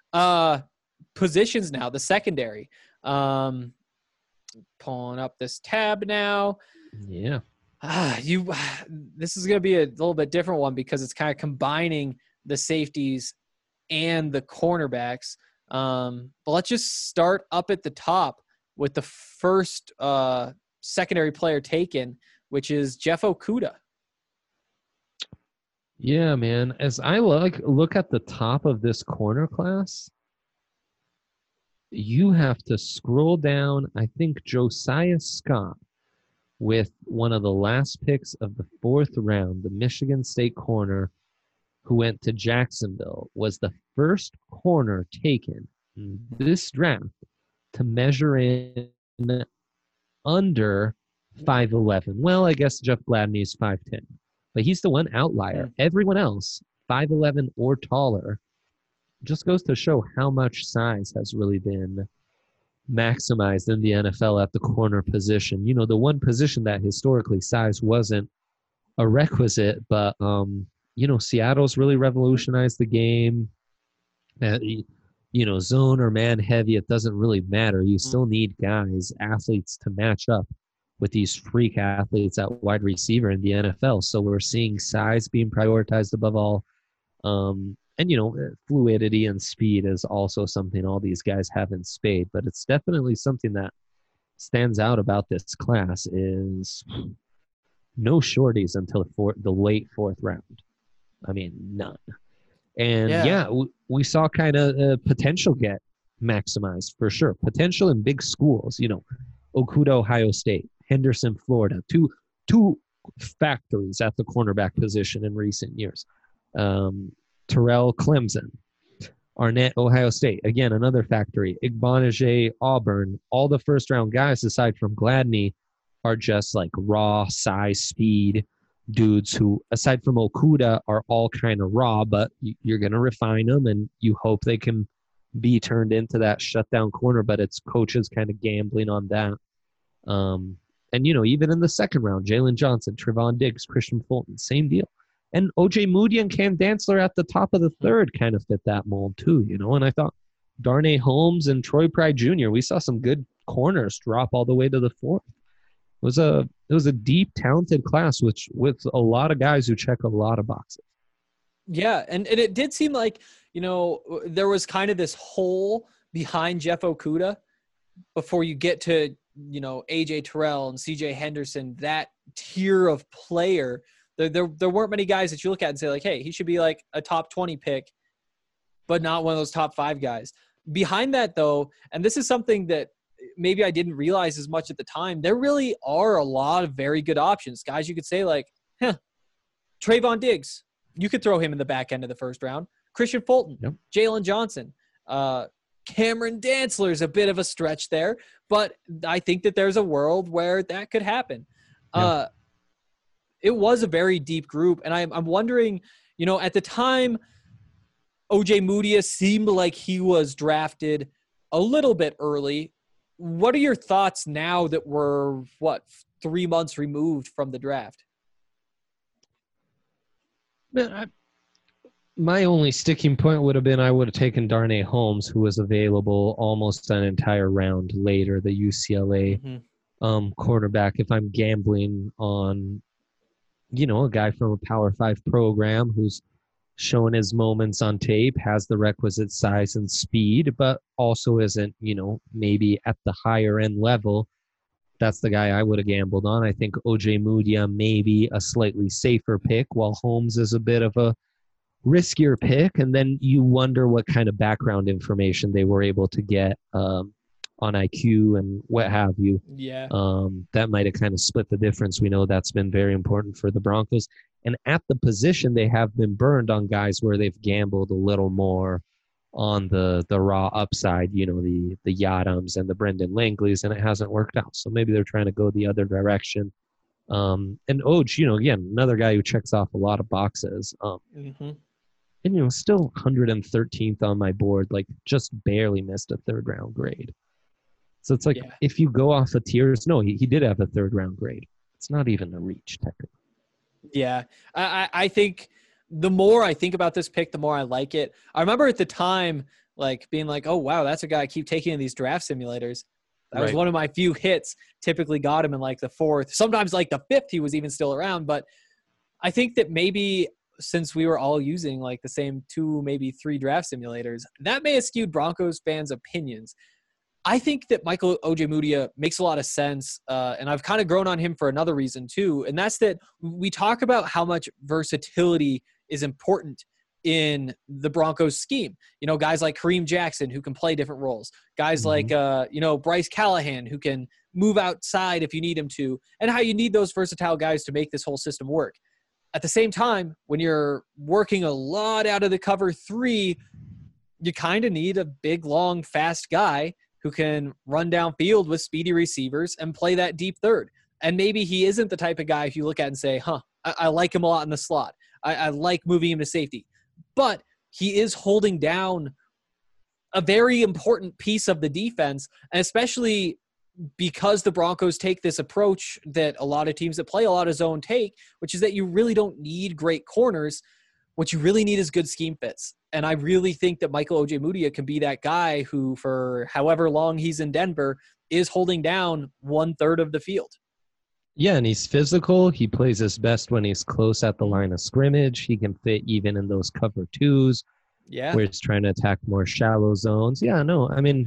Positions now, the secondary. Pulling up this tab now. Yeah. This is going to be a little bit different one because it's kind of combining the safeties and the cornerbacks. But let's just start up at the top with the first secondary player taken, which is Jeff Okudah. Yeah, man. As I look at the top of this corner class, you have to scroll down. I think Josiah Scott, with one of the last picks of the 4th round, the Michigan State corner, who went to Jacksonville, was the first corner taken in this draft to measure in under 5'11". Well, I guess Jeff Gladney's 5'10". But he's the one outlier. Everyone else, 5'11" or taller, just goes to show how much size has really been maximized in the NFL at the corner position. You know, the one position that historically size wasn't a requisite, but, Seattle's really revolutionized the game. Zone or man heavy, it doesn't really matter. You still need guys, athletes to match up with these freak athletes at wide receiver in the NFL. So we're seeing size being prioritized above all. Fluidity and speed is also something all these guys have in spade, but it's definitely something that stands out about this class is no shorties until the late 4th round. I mean, none. And we saw kind of potential get maximized for sure. Potential in big schools, Okudah, Ohio State, Henderson, Florida, two factories at the cornerback position in recent years. Terrell, Clemson. Arnett, Ohio State. Again, another factory. Igbanije, Auburn. All the first-round guys, aside from Gladney, are just like raw size, speed dudes who, aside from Okuda, are all kind of raw, but you're going to refine them, and you hope they can be turned into that shutdown corner, but it's coaches kind of gambling on that. And, even in the second round, Jalen Johnson, Trevon Diggs, Christian Fulton, same deal. And O.J. Moody and Cam Dantzler at the top of the third kind of fit that mold too, and I thought Darnay Holmes and Troy Pride Jr., we saw some good corners drop all the way to the fourth. It was a deep, talented class, with a lot of guys who check a lot of boxes. Yeah, and it did seem like, there was kind of this hole behind Jeff Okuda before you get to, A.J. Terrell and C.J. Henderson, that tier of player. There weren't many guys that you look at and say, like, hey, he should be like a top 20 pick, but not one of those top 5 guys. Behind that, though, and this is something that maybe I didn't realize as much at the time, there really are a lot of very good options. Guys you could say, like, Trevon Diggs, you could throw him in the back end of the first round. Christian Fulton, yep. Jalen Johnson, Cameron Dantzler's a bit of a stretch there, but I think that there's a world where that could happen. Yep. It was a very deep group, and I'm wondering, at the time, O.J. Moody seemed like he was drafted a little bit early. What are your thoughts now that we're, 3 months removed from the draft? My only sticking point would have been I would have taken Darnay Holmes, who was available almost an entire round later, the UCLA cornerback, if I'm gambling on a guy from a Power 5 program who's shown his moments on tape, has the requisite size and speed, but also isn't, maybe at the higher end level. That's the guy I would have gambled on. I think O.J. Moody maybe a slightly safer pick, while Holmes is a bit of a riskier pick. And then you wonder what kind of background information they were able to get on IQ and what have you. Yeah. That might have kind of split the difference. We know that's been very important for the Broncos. And at the position, they have been burned on guys where they've gambled a little more on the raw upside, the Yadams and the Brendan Langleys, and it hasn't worked out. So maybe they're trying to go the other direction. And Oj, again, another guy who checks off a lot of boxes. And, still 113th on my board, like just barely missed a third round grade. So it's like, if you go off of tiers, no, he did have a third round grade. It's not even a reach technically. Yeah. I think the more I think about this pick, the more I like it. I remember at the time, like being like, oh, wow, that's a guy I keep taking in these draft simulators. That was one of my few hits. Typically got him in like the 4th, sometimes like the 5th, he was even still around. But I think that maybe since we were all using like the same 2, maybe 3 draft simulators, that may have skewed Broncos fans' opinions. I think that Michael Ojemudia makes a lot of sense, and I've kind of grown on him for another reason too, and that's that we talk about how much versatility is important in the Broncos scheme. Guys like Kareem Jackson who can play different roles, guys like Bryce Callahan who can move outside if you need him to, and how you need those versatile guys to make this whole system work. At the same time, when you're working a lot out of the cover 3, you kind of need a big, long, fast guy who can run downfield with speedy receivers and play that deep third. And maybe he isn't the type of guy if you look at and say, I like him a lot in the slot. I like moving him to safety. But he is holding down a very important piece of the defense, and especially because the Broncos take this approach that a lot of teams that play a lot of zone take, which is that you really don't need great corners. What you really need is good scheme fits. And I really think that Michael Ojemudia can be that guy who, for however long he's in Denver, is holding down 1/3 of the field. Yeah, and he's physical. He plays his best when he's close at the line of scrimmage. He can fit even in those cover 2s. Yeah. Where he's trying to attack more shallow zones. Yeah, no, I mean,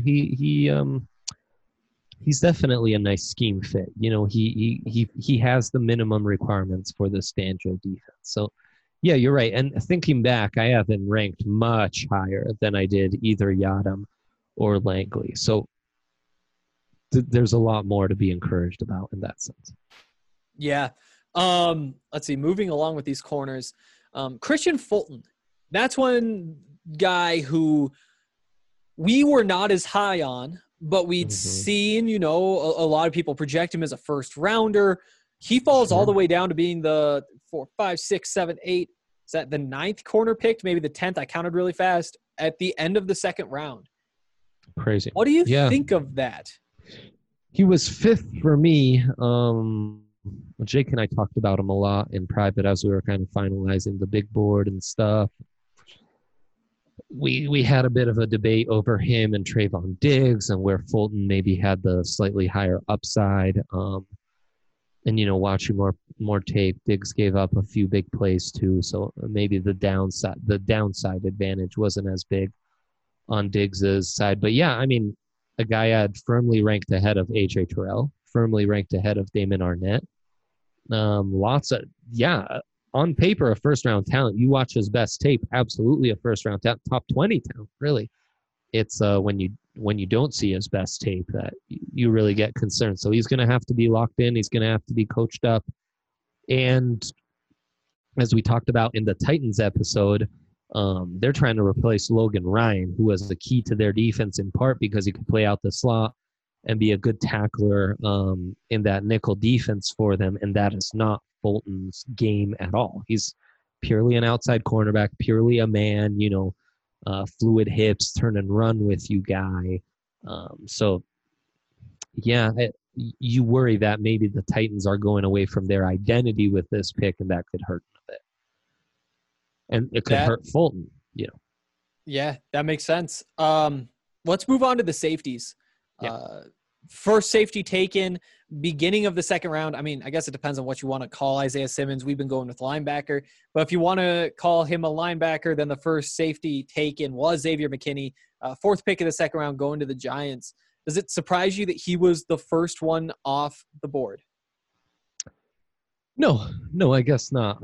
he's definitely a nice scheme fit. He has the minimum requirements for the Fangio defense. So, yeah, you're right. And thinking back, I have him ranked much higher than I did either Yadam or Langley. So there's a lot more to be encouraged about in that sense. Yeah. Let's see. Moving along with these corners, Christian Fulton. That's one guy who we were not as high on, but we'd seen, a lot of people project him as a first rounder. He falls all the way down to being the 4, 5, 6, 7, 8. Is that the 9th corner picked? Maybe the 10th. I counted really fast at the end of the 2nd round. Crazy. What do you think of that? He was 5th for me. Jake and I talked about him a lot in private as we were kind of finalizing the big board and stuff. We had a bit of a debate over him and Trayvon Diggs and where Fulton maybe had the slightly higher upside. And watching more tape, Diggs gave up a few big plays too, so maybe the downside advantage wasn't as big on Diggs's side. But yeah, I mean, a guy I had firmly ranked ahead of AJ Terrell, firmly ranked ahead of Damon Arnett. On paper, a first-round talent. You watch his best tape, absolutely a first-round talent, top 20 talent, really. It's when you don't see his best tape that you really get concerned. So he's going to have to be locked in. He's going to have to be coached up. And as we talked about in the Titans episode, they're trying to replace Logan Ryan, who was the key to their defense in part because he could play out the slot and be a good tackler in that nickel defense for them. And that is not Fulton's game at all. He's purely an outside cornerback, purely a man, fluid hips, turn and run with you guy. You worry that maybe the Titans are going away from their identity with this pick, and that could hurt a bit. And it could hurt Fulton, Yeah, that makes sense. Let's move on to the safeties. Yeah. First safety taken, beginning of the 2nd round. I mean, I guess it depends on what you want to call Isaiah Simmons. We've been going with linebacker. But if you want to call him a linebacker, then the first safety taken was Xavier McKinney, 4th pick of the 2nd round going to the Giants. Does it surprise you that he was the first one off the board? No, I guess not.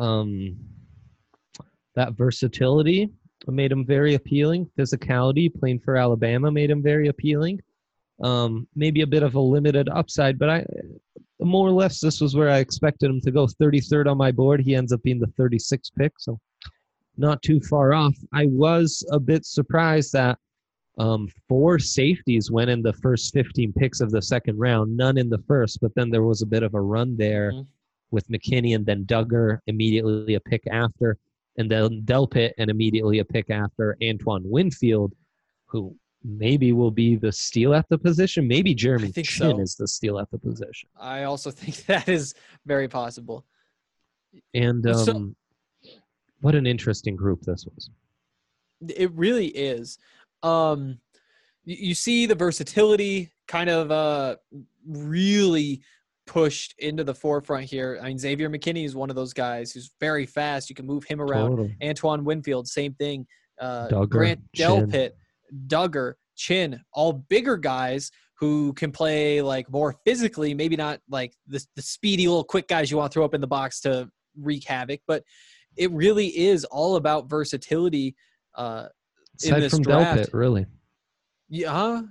That versatility made him very appealing. Physicality, playing for Alabama, made him very appealing. Maybe a bit of a limited upside, but more or less this was where I expected him to go. 33rd on my board. He ends up being the 36th pick, so not too far off. I was a bit surprised that 4 safeties went in the first 15 picks of the 2nd round, none in the first, but then there was a bit of a run there with McKinney and then Duggar immediately a pick after, and then Delpit and immediately a pick after Antoine Winfield, who maybe will be the steal at the position. Maybe Jeremy Chin is the steal at the position. I also think that is very possible. And what an interesting group this was. It really is. You see the versatility kind of really pushed into the forefront here. I mean, Xavier McKinney is one of those guys who's very fast. You can move him around. Totally. Antoine Winfield, same thing. Grant Delpit, Duggar, Chin, all bigger guys who can play like more physically, maybe not like the speedy little quick guys you want to throw up in the box to wreak havoc, but it really is all about versatility in this from draft. Delpit, really. Yeah.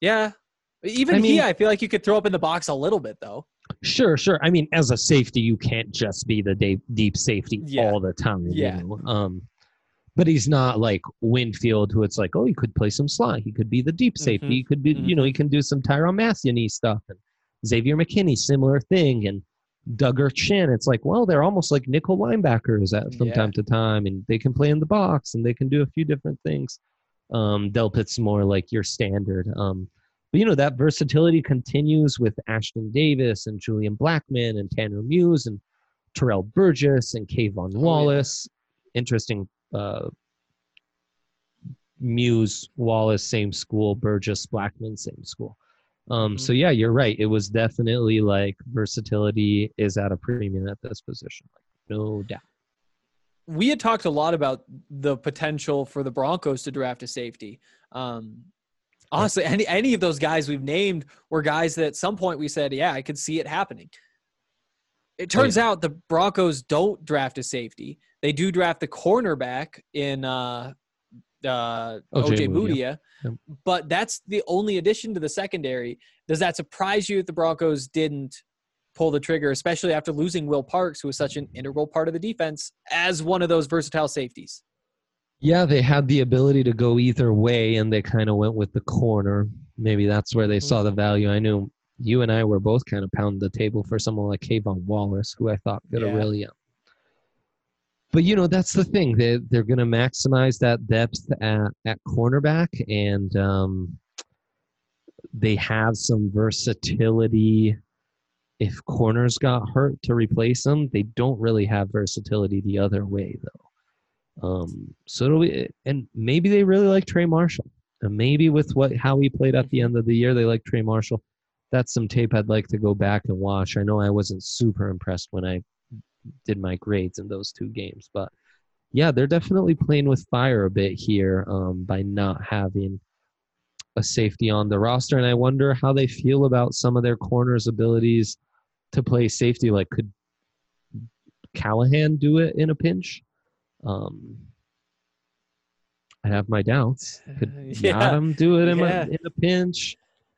I feel like you could throw up in the box a little bit though. Sure. I mean, as a safety, you can't just be the deep safety all the time. Yeah. But he's not like Winfield, who it's like, oh, he could play some slot. He could be the deep safety. He could be, he can do some Tyrann Mathieu stuff. And Xavier McKinney, similar thing. And Duggar, Chin, it's like, well, they're almost like nickel linebackers from time to time. And they can play in the box and they can do a few different things. Delpit's more like your standard. But, that versatility continues with Ashton Davis and Julian Blackman and Tanner Muse and Terrell Burgess and Kayvon Wallace. Interesting. Muse, Wallace, same school. Burgess, Blackman, same school. So yeah, you're right. It was definitely like versatility is at a premium at this position, no doubt. We had talked a lot about the potential for the Broncos to draft a safety. Honestly, any of those guys we've named were guys that at some point we said, yeah, I could see it happening. It turns out the Broncos don't draft a safety. They do draft the cornerback in O.J. Mudia, but that's the only addition to the secondary. Does that surprise you that the Broncos didn't pull the trigger, especially after losing Will Parks, who was such an integral part of the defense as one of those versatile safeties. Yeah, they had the ability to go either way, and they kind of went with the corner. Maybe that's where they saw the value. I knew you and I were both kind of pounding the table for someone like Kayvon Wallace, who I thought could have really. But, that's the thing. They're going to maximize that depth at cornerback, and they have some versatility if corners got hurt to replace them. They don't really have versatility the other way, though. So it'll be, and maybe they really like Trey Marshall, and maybe with how he played at the end of the year, they like Trey Marshall. That's some tape I'd like to go back and watch. I know I wasn't super impressed when I did my grades in those 2 games, but yeah, they're definitely playing with fire a bit here by not having a safety on the roster. And I wonder how they feel about some of their corners' abilities to play safety. Like, could Callahan do it in a pinch? I have my doubts. Could Yadam do it in a pinch?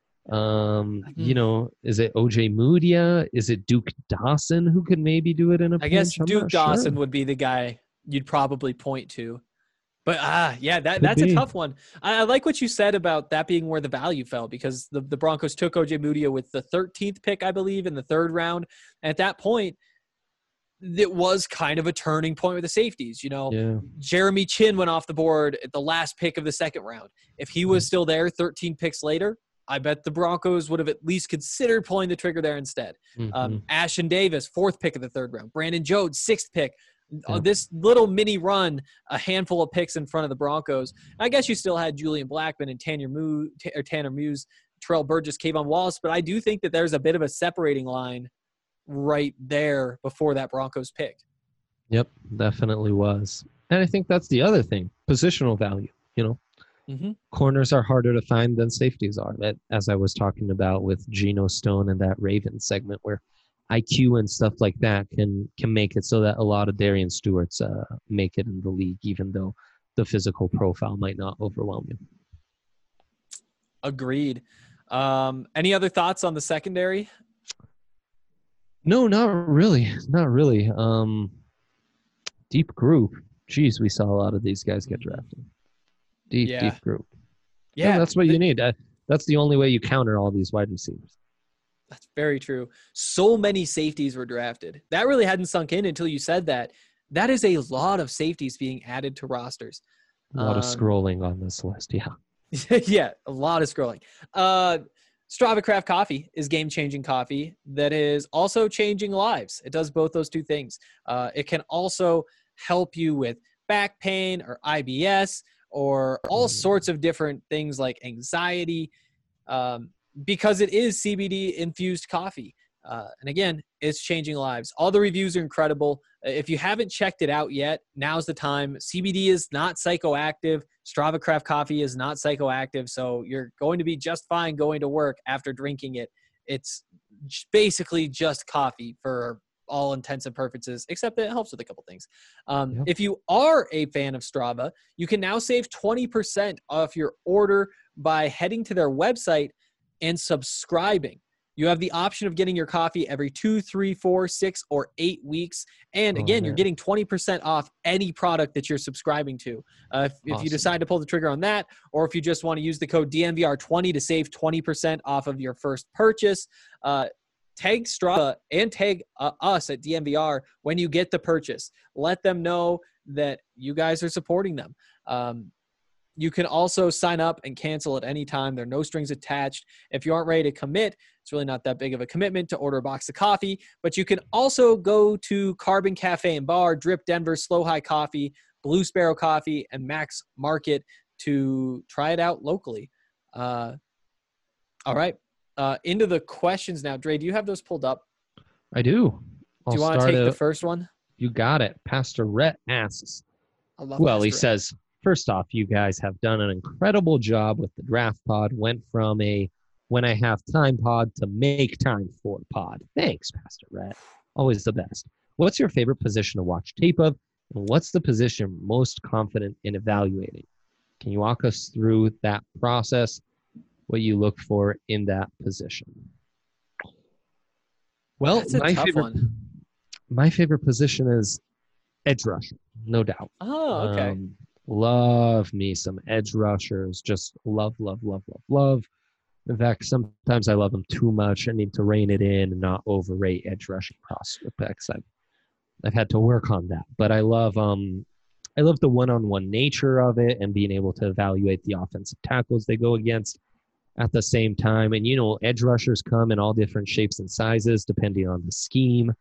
Is it OJ Mudia? Is it Duke Dawson who could maybe do it in a pinch? I guess Duke Dawson would be the guy you'd probably point to. But that's a tough one. I like what you said about that being where the value fell, because the Broncos took OJ Mudia with the 13th pick, I believe, in the 3rd round. And at that point, it was kind of a turning point with the safeties. Jeremy Chin went off the board at the last pick of the 2nd round. If he was still there 13 picks later, I bet the Broncos would have at least considered pulling the trigger there instead. Ashtyn Davis, 4th pick of the 3rd round. Brandon Jones, 6th pick. This little mini run, a handful of picks in front of the Broncos. I guess you still had Julian Blackmon and Tanner Muse, Terrell Burgess, Kayvon Wallace, but I do think that there's a bit of a separating line right there before that Broncos pick. Yep, definitely was. And I think that's the other thing, positional value. Corners are harder to find than safeties are. That, as I was talking about with Geno Stone and that Ravens segment, where IQ and stuff like that can make it so that a lot of Darian Stewarts make it in the league, even though the physical profile might not overwhelm you. Agreed. Any other thoughts on the secondary? No, not really. Not really. Deep group. Jeez, we saw a lot of these guys get drafted. Deep group. Yeah, that's what you need. That's the only way you counter all these wide receivers. That's very true. So many safeties were drafted. That really hadn't sunk in until you said that. That is a lot of safeties being added to rosters. A lot of scrolling on this list, yeah. Yeah, a lot of scrolling. Strava Craft Coffee is game-changing coffee that is also changing lives. It does both those 2 things. It can also help you with back pain or IBS or all sorts of different things like anxiety, because it is CBD-infused coffee. And again, it's changing lives. All the reviews are incredible. If you haven't checked it out yet, now's the time. CBD is not psychoactive. Strava Craft Coffee is not psychoactive. So you're going to be just fine going to work after drinking it. It's basically just coffee for all intents and purposes, except that it helps with a couple things. If you are a fan of Strava, you can now save 20% off your order by heading to their website and subscribing. You have the option of getting your coffee every 2, 3, 4, 6, or 8 weeks. And again, you're getting 20% off any product that you're subscribing to. If you decide to pull the trigger on that, or if you just want to use the code DNVR20 to save 20% off of your first purchase, tag Strava and tag us at DNVR when you get the purchase. Let them know that you guys are supporting them. You can also sign up and cancel at any time. There are no strings attached. If you aren't ready to commit, it's really not that big of a commitment to order a box of coffee. But you can also go to Carbon Cafe and Bar, Drip Denver, Slow High Coffee, Blue Sparrow Coffee, and Max Market to try it out locally. All right. Into the questions now. Dre, do you have those pulled up? I do. Do you want to take the first one? You got it. Pastor Rhett asks. He says, first off, you guys have done an incredible job with the draft pod. Went from a when I have time pod to make time for pod. Thanks, Pastor Rhett. Always the best. What's your favorite position to watch tape of? And what's the position most confident in evaluating? Can you walk us through that process? What you look for in that position? Well, That's a tough one. my favorite position is edge rusher, no doubt. Oh, okay. Love me some edge rushers. Just love, love, love, love, love. In fact, sometimes I love them too much. I need to rein it in and not overrate edge rushing prospects. I've had to work on that, but I love the one-on-one nature of it and being able to evaluate the offensive tackles they go against at the same time. And edge rushers come in all different shapes and sizes depending on the scheme.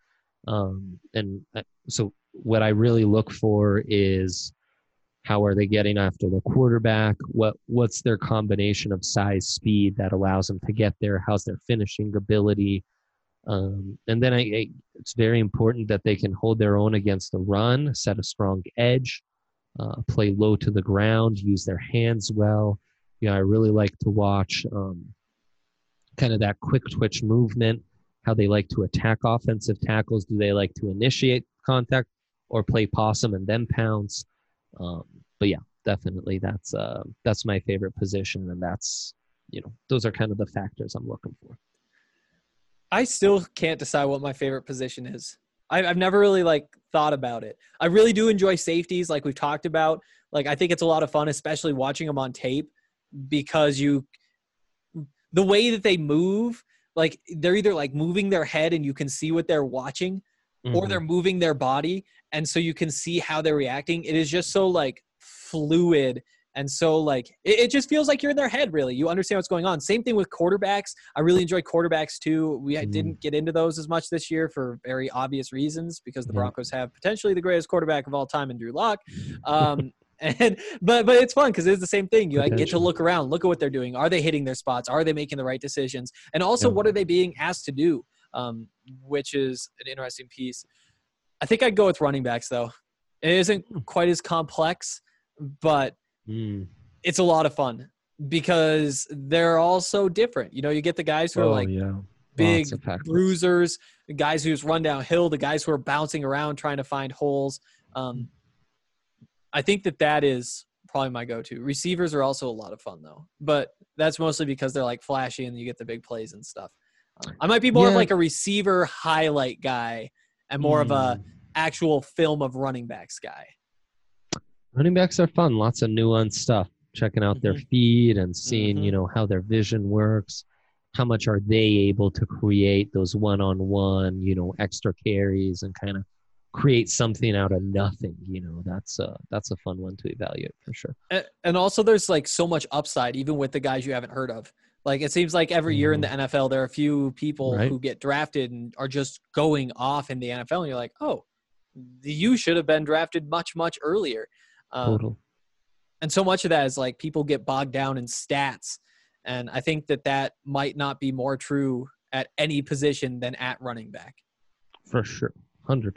So what I really look for is, how are they getting after the quarterback? What's their combination of size, speed that allows them to get there? How's their finishing ability? And then it's very important that they can hold their own against the run, set a strong edge, play low to the ground, use their hands well. I really like to watch kind of that quick twitch movement, how they like to attack offensive tackles. Do they like to initiate contact or play possum and then pounce? But yeah, definitely that's my favorite position, and that's those are kind of the factors I'm looking for. I still can't decide what my favorite position is. I've never really thought about it. I really do enjoy safeties, like we've talked about. I think it's a lot of fun, especially watching them on tape, because the way that they move, they're either moving their head and you can see what they're watching, or they're moving their body, and so you can see how they're reacting. It is just so fluid, and so it just feels like you're in their head. Really, you understand what's going on. Same thing with quarterbacks. I really enjoy quarterbacks too. We didn't get into those as much this year for very obvious reasons, because the Broncos have potentially the greatest quarterback of all time in Drew Lock. But it's fun because it's the same thing. You get to look around, look at what they're doing. Are they hitting their spots? Are they making the right decisions? And also, what are they being asked to do? Which is an interesting piece. I think I'd go with running backs, though. It isn't quite as complex, but it's a lot of fun because they're all so different. You get the guys who are big bruisers, the guys who just run downhill, the guys who are bouncing around trying to find holes. I think that is probably my go-to. Receivers are also a lot of fun, though, but that's mostly because they're flashy and you get the big plays and stuff. I might be more of a receiver highlight guy and more of a actual film of running backs guy. Running backs are fun. Lots of nuanced stuff. Checking out their feed and seeing, how their vision works. How much are they able to create those one-on-one, extra carries and kind of create something out of nothing. That's a fun one to evaluate for sure. And also there's so much upside, even with the guys you haven't heard of. It seems like every year in the NFL, there are a few people who get drafted and are just going off in the NFL. And you're like, oh, you should have been drafted much, much earlier. Total. And so much of that is people get bogged down in stats. And I think that might not be more true at any position than at running back. For sure. 100%.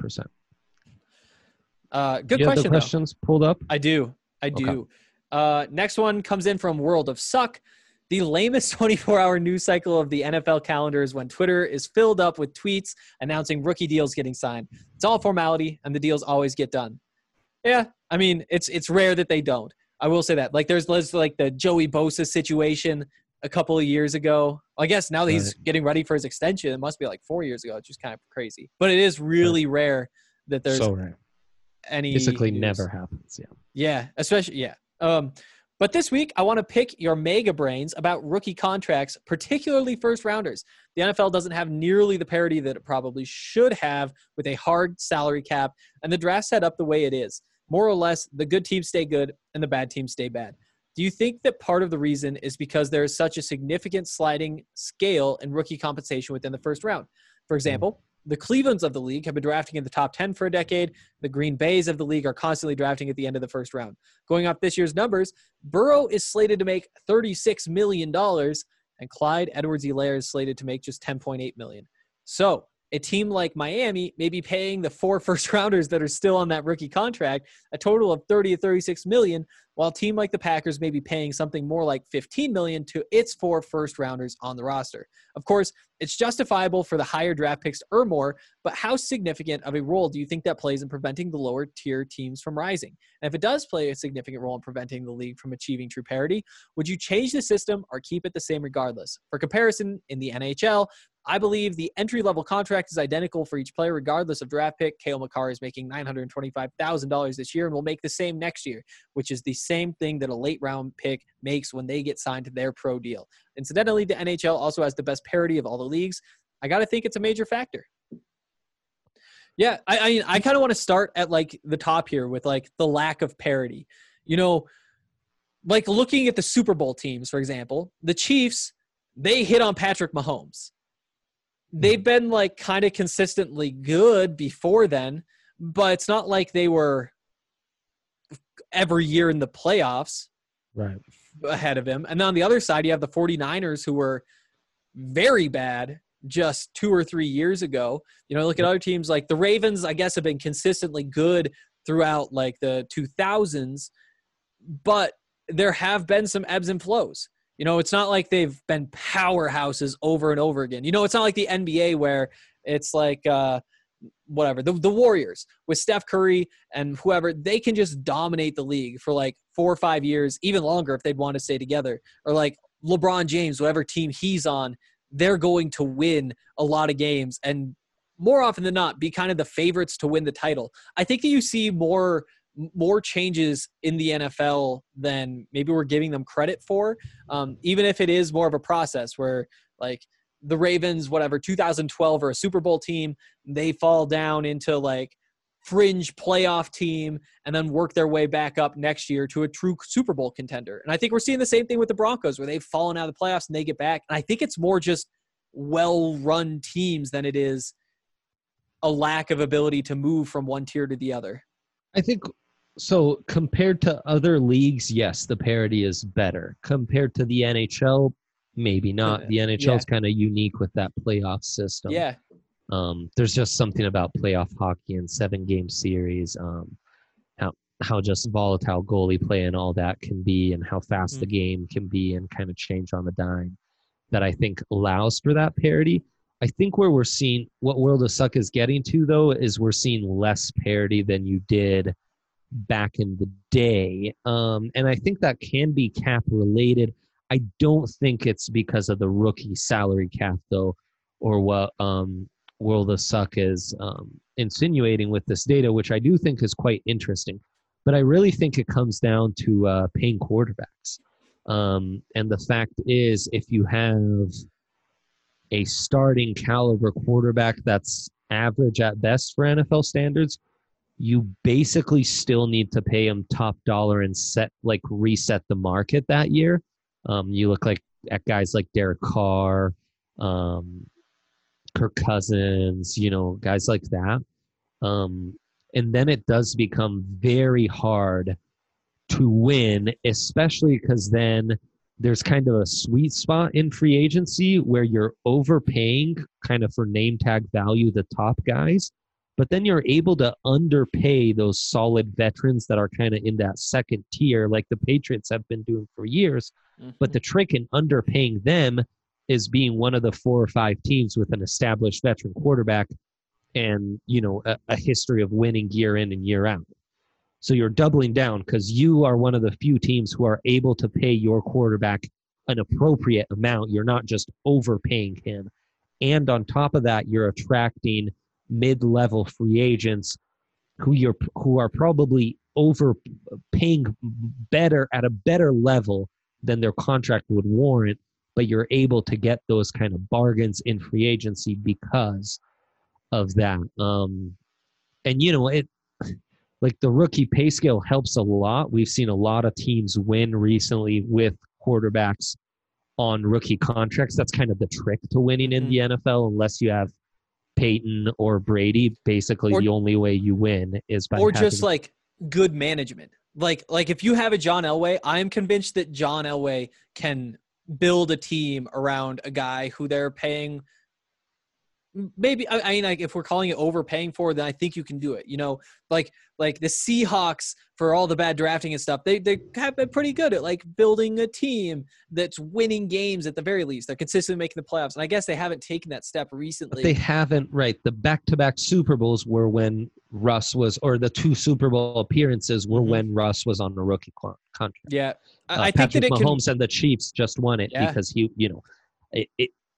Good you question. Have the questions pulled up? I do. Okay. Next one comes in from World of Suck. The lamest 24-hour news cycle of the NFL calendar is when Twitter is filled up with tweets announcing rookie deals getting signed. It's all formality, and the deals always get done. Yeah, I mean, it's rare that they don't. I will say that. There's the Joey Bosa situation a couple of years ago. I guess now that he's getting ready for his extension, it must be 4 years ago. It's just kind of crazy. But it is really rare that there's any basically news. Never happens. Yeah, especially but this week I want to pick your mega brains about rookie contracts, particularly first rounders. The NFL doesn't have nearly the parity that it probably should have with a hard salary cap, and the draft set up the way it is. More or less, the good teams stay good and the bad teams stay bad. Do you think that part of the reason is because there is such a significant sliding scale in rookie compensation within the first round? For example, the Clevelands of the league have been drafting in the top 10 for a decade. The Green Bays of the league are constantly drafting at the end of the first round. Going off this year's numbers, Burrow is slated to make $36 million, and Clyde Edwards-Helaire is slated to make just $10.8 million. So a team like Miami may be paying the 4 first-rounders that are still on that rookie contract a total of $30 to $36 million, while a team like the Packers may be paying something more like $15 million to its 4 first-rounders on the roster. Of course, it's justifiable for the higher draft picks to earn more, but how significant of a role do you think that plays in preventing the lower-tier teams from rising? And if it does play a significant role in preventing the league from achieving true parity, would you change the system or keep it the same regardless? For comparison, in the NHL, I believe the entry-level contract is identical for each player, regardless of draft pick. Cale Makar is making $925,000 this year and will make the same next year, which is the same thing that a late-round pick makes when they get signed to their pro deal. Incidentally, the NHL also has the best parity of all the leagues. I got to think it's a major factor. Yeah, I kind of want to start at like the top here with like the lack of parity. You know, like looking at the Super Bowl teams, for example, the Chiefs, they hit on Patrick Mahomes. They've been like kind of consistently good before then, but it's not like they were every year in the playoffs Right. ahead of him. And then on the other side, you have the 49ers who were very bad just 2 or 3 years ago. You know, look at other teams like the Ravens, I guess, have been consistently good throughout like the 2000s, but there have been some ebbs and flows. You know, it's not like they've been powerhouses over and over again. You know, it's not like the NBA where it's like whatever, the Warriors with Steph Curry and whoever, they can just dominate the league for like 4 or 5 years, even longer if they'd want to stay together. Or like LeBron James, whatever team he's on, they're going to win a lot of games and more often than not be kind of the favorites to win the title. I think that you see more changes in the NFL than maybe we're giving them credit for, even if it is more of a process where like the Ravens, whatever, 2012 are a Super Bowl team, they fall down into like fringe playoff team and then work their way back up next year to a true Super Bowl contender. And I think we're seeing the same thing with the Broncos where they've fallen out of the playoffs and they get back. And I think it's more just well-run teams than it is a lack of ability to move from one tier to the other. I think so. Compared to other leagues, yes, the parity is better. Compared to the NHL, maybe not. The NHL is kind of unique with that playoff system. Yeah. There's just something about playoff hockey and 7-game series, how just volatile goalie play and all that can be, and how fast the game can be and kind of change on the dime, that I think allows for that parity. I think where we're seeing what World of Suck is getting to, though, is we're seeing less parity than you did back in the day. And I think that can be cap related. I don't think it's because of the rookie salary cap, though, or what World of Suck is insinuating with this data, which I do think is quite interesting. But I really think it comes down to paying quarterbacks. And the fact is, if you have a starting caliber quarterback that's average at best for NFL standards, you basically still need to pay him top dollar and reset the market that year. You look at guys like Derek Carr, Kirk Cousins, guys like that. And then it does become very hard to win, especially because then there's kind of a sweet spot in free agency where you're overpaying kind of for name tag value the top guys, but then you're able to underpay those solid veterans that are kind of in that second tier like the Patriots have been doing for years. But the trick in underpaying them is being one of the 4 or 5 teams with an established veteran quarterback and, a history of winning year in and year out. So you're doubling down because you are one of the few teams who are able to pay your quarterback an appropriate amount. You're not just overpaying him. And on top of that, you're attracting mid-level free agents who are probably overpaying better at a better level than their contract would warrant, but you're able to get those kind of bargains in free agency because of that. Like the rookie pay scale helps a lot. We've seen a lot of teams win recently with quarterbacks on rookie contracts. That's kind of the trick to winning in the NFL, unless you have Peyton or Brady. Basically, the only way you win is by just like good management. Like if you have a John Elway, I am convinced that John Elway can build a team around a guy who they're paying. Maybe if we're calling it overpaying for, then I think you can do it. Like the Seahawks, for all the bad drafting and stuff, they have been pretty good at like building a team that's winning games at the very least. They're consistently making the playoffs, and I guess they haven't taken that step recently. But they haven't, right? The back-to-back Super Bowls were when Russ was, or the 2 Super Bowl appearances were when Russ was on the rookie contract. Yeah, I think Patrick that Mahomes and the Chiefs just won it because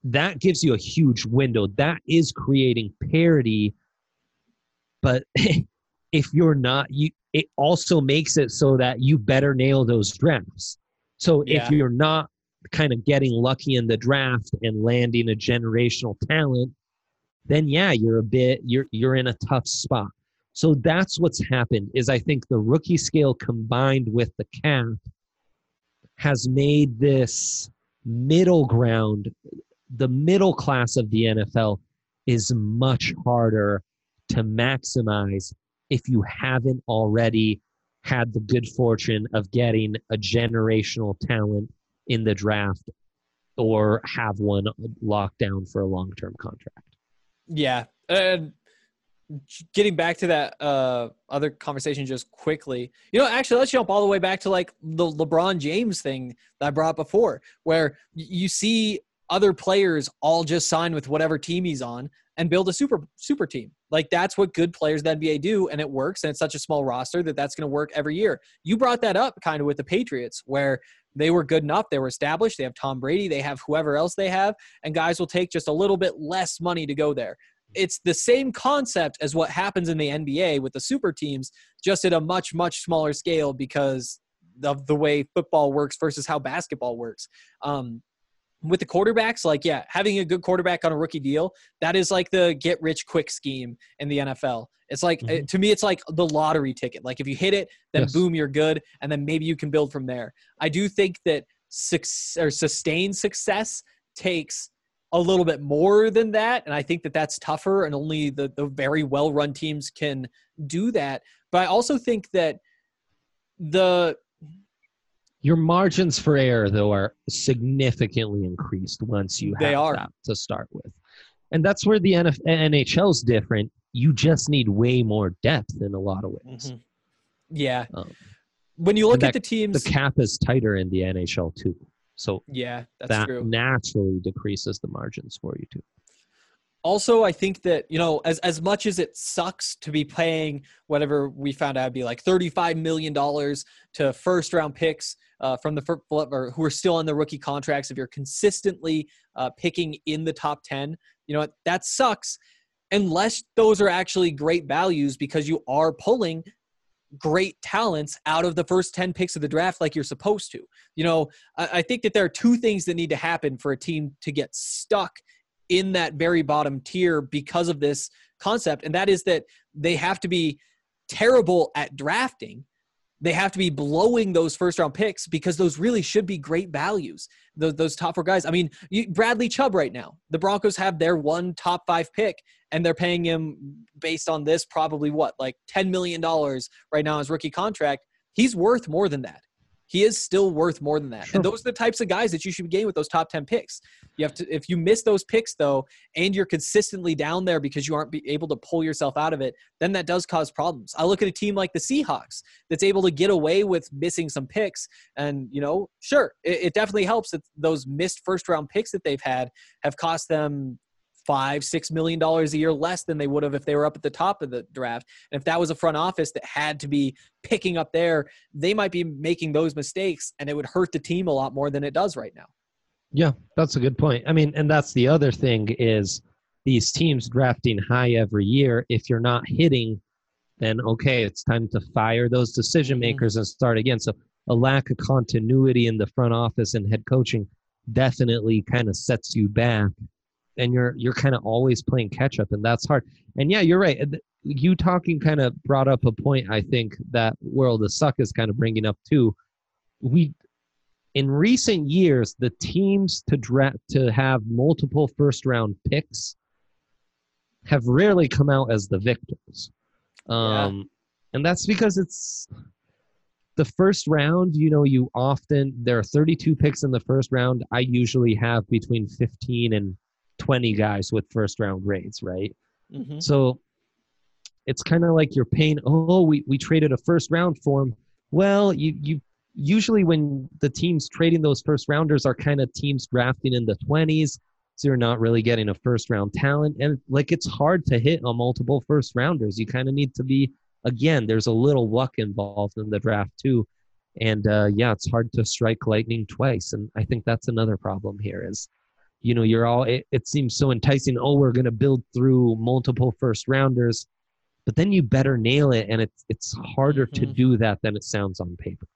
that gives you a huge window. That is creating parity. But if you're not, it also makes it so that you better nail those drafts. So if you're not kind of getting lucky in the draft and landing a generational talent, then you're in a tough spot. So that's what's happened is I think the rookie scale combined with the cap has made this middle ground, the middle class of the NFL is much harder to maximize if you haven't already had the good fortune of getting a generational talent in the draft or have one locked down for a long-term contract. Yeah. Getting back to that other conversation just quickly, actually, let's jump all the way back to like the LeBron James thing that I brought up before, where you see other players all just sign with whatever team he's on and build a super team. Like that's what good players in the NBA do, and it works, and it's such a small roster that's going to work every year. You brought that up kind of with the Patriots, where they were good enough, they were established, they have Tom Brady, they have whoever else they have, and guys will take just a little bit less money to go there. It's the same concept as what happens in the NBA with the super teams, just at a much, much smaller scale because of the way football works versus how basketball works. With the quarterbacks, having a good quarterback on a rookie deal, that is like the get rich quick scheme in the NFL. It's like, to me, it's like the lottery ticket. Like if you hit it, then boom, you're good. And then maybe you can build from there. I do think that sustained success takes a little bit more than that. And I think that that's tougher, and only the very well-run teams can do that. But I also think that your margins for error, though, are significantly increased once you have that to start with. And that's where the NHL is different. You just need way more depth in a lot of ways. Mm-hmm. Yeah. When you look at the teams... The cap is tighter in the NHL, too. So that's true. Naturally decreases the margins for you, too. Also, I think that, as much as it sucks to be paying whatever we found out would be like $35 million to first-round picks from the or who are still on the rookie contracts, if you're consistently picking in the top 10, that sucks unless those are actually great values because you are pulling great talents out of the first 10 picks of the draft like you're supposed to. I think that there are two things that need to happen for a team to get stuck in that very bottom tier because of this concept. And that is that they have to be terrible at drafting. They have to be blowing those first round picks because those really should be great values. Those top four guys. I mean, Bradley Chubb right now, the Broncos have their one top 5 pick and they're paying him based on this probably like $10 million right now as rookie contract. He's worth more than that. He is still worth more than that. Sure. And those are the types of guys that you should be getting with those top 10 picks. You have to, if you miss those picks though, and you're consistently down there because you aren't able to pull yourself out of it, then that does cause problems. I look at a team like the Seahawks that's able to get away with missing some picks. And, sure, it definitely helps that those missed first round picks that they've had have cost them $5-6 million a year less than they would have if they were up at the top of the draft. And if that was a front office that had to be picking up there, they might be making those mistakes and it would hurt the team a lot more than it does right now. Yeah, that's a good point. I mean, and that's the other thing is these teams drafting high every year. If you're not hitting, then okay, it's time to fire those decision makers and start again. So a lack of continuity in the front office and head coaching definitely kind of sets you back. And you're kind of always playing catch up, and that's hard. And yeah, you're right. You talking kind of brought up a point. I think that World of Suck is kind of bringing up too. In recent years, the teams to have multiple first round picks have rarely come out as the victors, and that's because it's the first round. There are 32 picks in the first round. I usually have between 15 and 20 guys with first round grades, right? Mm-hmm. So it's kind of like you're paying, we traded a first round for him. Well, you usually when the teams trading those first rounders are kind of teams drafting in the 20s, so you're not really getting a first round talent. And it's hard to hit on multiple first rounders. You kind of need to be, again, there's a little luck involved in the draft too. And it's hard to strike lightning twice. And I think that's another problem here is it seems so enticing. Oh, we're going to build through multiple first rounders, but then you better nail it. And it's harder to do that than it sounds on paper.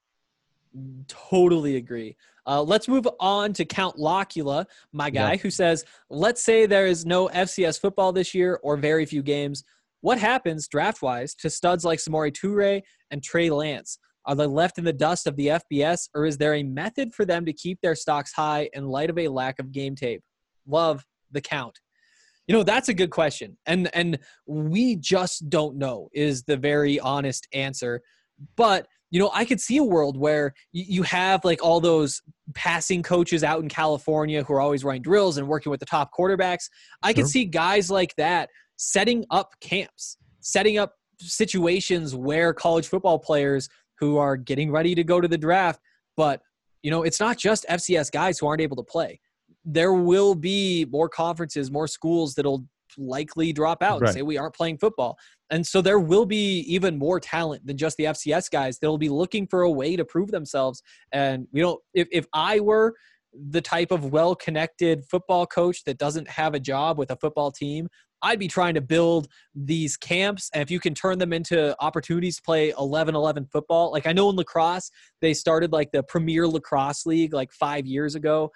Totally agree. Let's move on to Count Locula, my guy, who says, let's say there is no FCS football this year or very few games. What happens draft-wise to studs like Samori Toure and Trey Lance? Are they left in the dust of the FBS, or is there a method for them to keep their stocks high in light of a lack of game tape? Love the Count. That's a good question. And we just don't know is the very honest answer. But, I could see a world where you have like all those passing coaches out in California who are always running drills and working with the top quarterbacks. I could see guys like that setting up camps, setting up situations where college football players who are getting ready to go to the draft, but, it's not just FCS guys who aren't able to play. There will be more conferences, more schools that'll likely drop out and say we aren't playing football. And so there will be even more talent than just the FCS guys that'll be looking for a way to prove themselves. And, if I were the type of well-connected football coach that doesn't have a job with a football team, I'd be trying to build these camps. And if you can turn them into opportunities to play 11-11 football, like I know in lacrosse, they started like the Premier Lacrosse League like 4 years ago,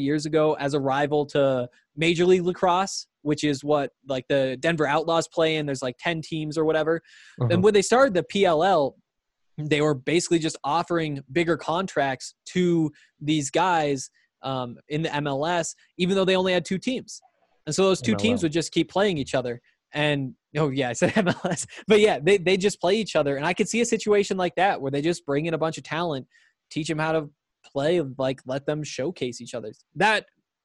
as a rival to Major League Lacrosse, which is what like the Denver Outlaws play in. There's like 10 teams or whatever. And when they started the PLL, they were basically just offering bigger contracts to these guys in the MLS, even though they only had 2 teams. And so those 2 teams would just keep playing each other. And, I said MLS. But, yeah, they just play each other. And I could see a situation like that where they just bring in a bunch of talent, teach them how to play, like let them showcase each other. That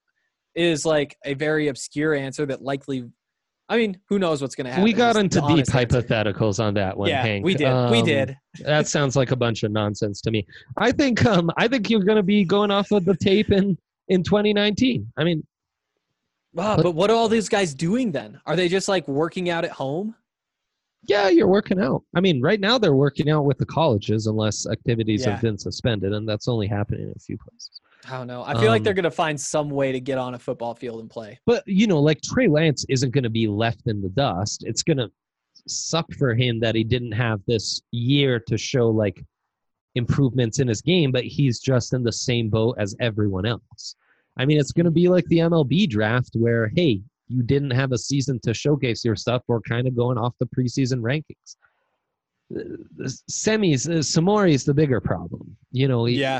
is like a very obscure answer that likely – I mean, who knows what's going to happen. We got into deep hypotheticals on that one, Hank. We did. That sounds like a bunch of nonsense to me. I think you're going to be going off of the tape in 2019. I mean – wow, but what are all these guys doing then? Are they just like working out at home? Yeah, you're working out. I mean, right now they're working out with the colleges unless activities have been suspended, and that's only happening in a few places. I don't know. I feel like they're going to find some way to get on a football field and play. But, like Trey Lance isn't going to be left in the dust. It's going to suck for him that he didn't have this year to show like improvements in his game, but he's just in the same boat as everyone else. I mean, it's going to be like the MLB draft where, hey, you didn't have a season to showcase your stuff. We're kind of going off the preseason rankings. Samori is the bigger problem. Yeah.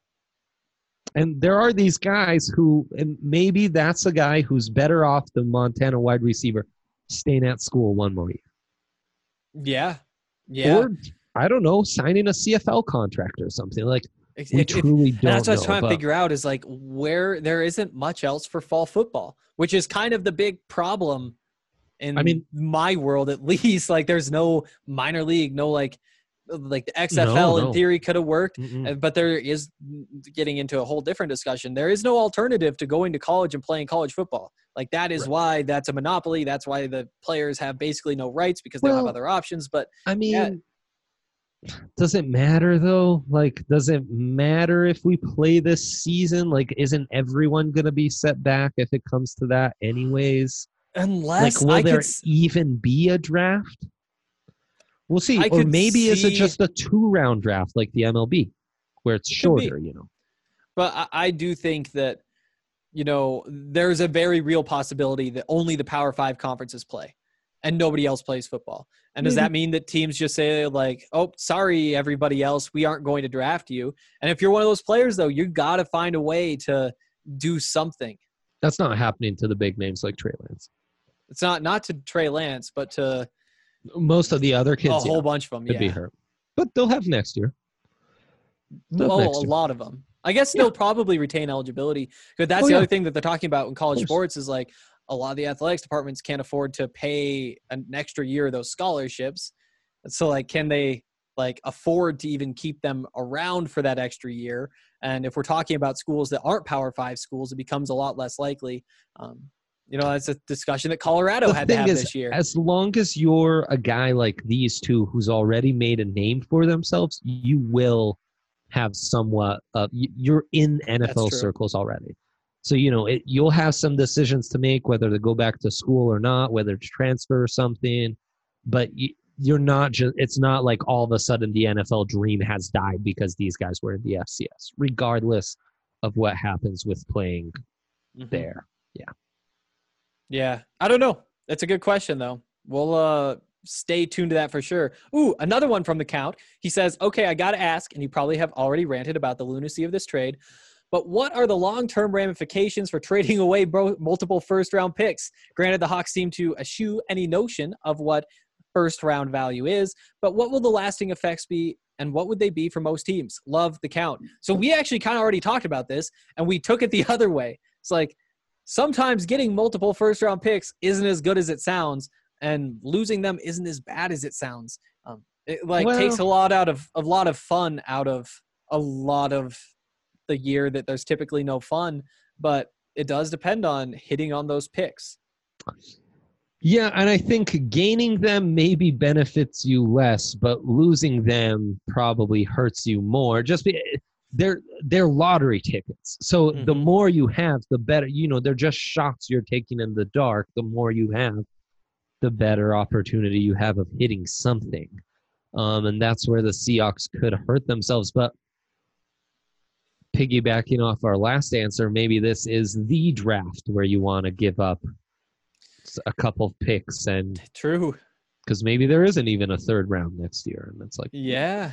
And there are these guys who, and maybe that's a guy who's better off the Montana wide receiver staying at school one more year. Yeah. Yeah. Or, I don't know, signing a CFL contract or something. Like, we truly don't know. That's what I was trying to figure out is like where there isn't much else for fall football, which is kind of the big problem in my world, at least. Like there's no minor league, no like the XFL in theory could have worked, but there is, getting into a whole different discussion, there is no alternative to going to college and playing college football. Like that is why that's a monopoly. That's why the players have basically no rights because they don't have other options. But I mean, does it matter though? Like, does it matter if we play this season? Like, isn't everyone going to be set back if it comes to that anyways? Unless will there even be a draft? We'll see. Or maybe is it just a 2-round draft like the MLB where it's shorter, But I do think that, there's a very real possibility that only the Power 5 conferences play and nobody else plays football. And does that mean that teams just say like, oh, sorry, everybody else, we aren't going to draft you? And if you're one of those players, though, you got to find a way to do something. That's not happening to the big names like Trey Lance. It's not to Trey Lance, but to most of the other kids. A whole bunch of them, could be hurt. But they'll have next year. A lot of them. I guess they'll probably retain eligibility. Because that's the other thing that they're talking about in college sports is like, a lot of the athletics departments can't afford to pay an extra year of those scholarships. So like, can they like afford to even keep them around for that extra year? And if we're talking about schools that aren't Power 5 schools, it becomes a lot less likely. That's a discussion that Colorado had to have this year. As long as you're a guy like these two who's already made a name for themselves, you will have somewhat you're in NFL circles already. So, you'll have some decisions to make, whether to go back to school or not, whether to transfer or something. But you're not just, it's not like all of a sudden the NFL dream has died because these guys were in the FCS, regardless of what happens with playing there. Yeah. Yeah. I don't know. That's a good question, though. We'll stay tuned to that for sure. Ooh, another one from the Count. He says, okay, I got to ask, and you probably have already ranted about the lunacy of this trade, but what are the long-term ramifications for trading away multiple first-round picks? Granted, the Hawks seem to eschew any notion of what first-round value is, but what will the lasting effects be, and what would they be for most teams? Love the Count. So we actually kind of already talked about this, and we took it the other way. It's like sometimes getting multiple first-round picks isn't as good as it sounds, and losing them isn't as bad as it sounds. It takes a lot of fun out of a lot of the year that there's typically no fun, but it does depend on hitting on those picks. Yeah, and I think gaining them maybe benefits you less, but losing them probably hurts you more. They're lottery tickets. So the more you have, the better. They're just shots you're taking in the dark. The more you have, the better opportunity you have of hitting something. And that's where the Seahawks could hurt themselves. But piggybacking off our last answer, maybe this is the draft where you want to give up a couple of picks, and true, because maybe there isn't even a third round next year, and it's like, yeah,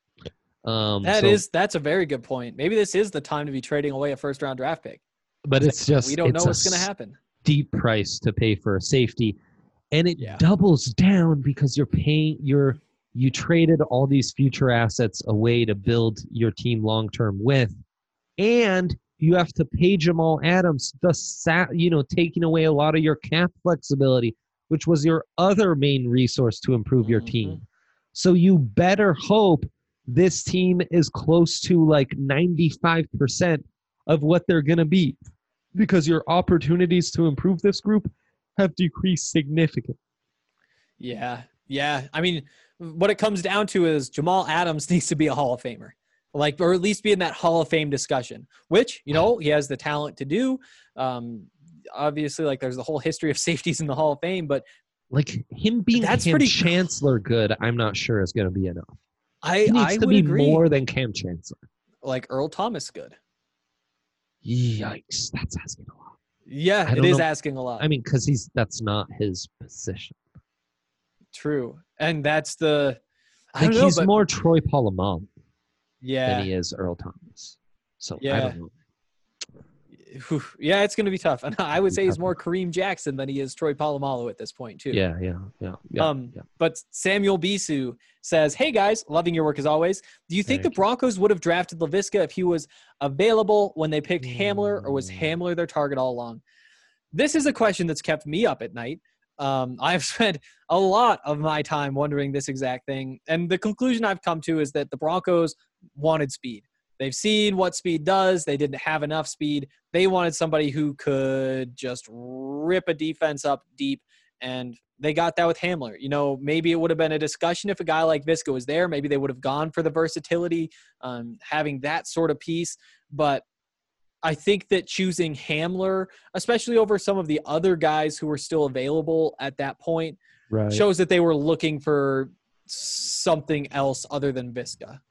that's a very good point. Maybe this is the time to be trading away a first round draft pick, but it's just we don't know what's going to happen. Deep price to pay for a safety, and it doubles down because you traded all these future assets away to build your team long term with, and you have to pay Jamal Adams, taking away a lot of your cap flexibility, which was your other main resource to improve your team. So you better hope this team is close to like 95% of what they're going to be, because your opportunities to improve this group have decreased significantly. Yeah. I mean, what it comes down to is Jamal Adams needs to be a Hall of Famer, or at least be in that Hall of Fame discussion, which, he has the talent to do. Obviously, there's the whole history of safeties in the Hall of Fame, but him being Cam Chancellor good, I'm not sure is going to be enough. He needs to be more than Cam Chancellor. Like Earl Thomas good. Yikes, that's asking a lot. Yeah, it is asking a lot. I mean, because that's not his position. True, and that's he's more Troy Polamalu. Yeah, than he is Earl Thomas. So yeah. I don't know. Yeah, it's going to be tough. And I would say he's more Kareem Jackson than he is Troy Polamalu at this point, too. Yeah. But Samuel Bisu says, hey, guys, loving your work as always. Do you think the Broncos would have drafted Laviska if he was available when they picked Hamler, or was Hamler their target all along? This is a question that's kept me up at night. I've spent a lot of my time wondering this exact thing. And the conclusion I've come to is that the Broncos wanted speed. They've seen what speed does. They didn't have enough speed. They wanted somebody who could just rip a defense up deep, and they got that with Hamler. Maybe it would have been a discussion if a guy like Viska was there. Maybe they would have gone for the versatility, having that sort of piece. But I think that choosing Hamler, especially over some of the other guys who were still available at that point, shows that they were looking for something else other than Viska.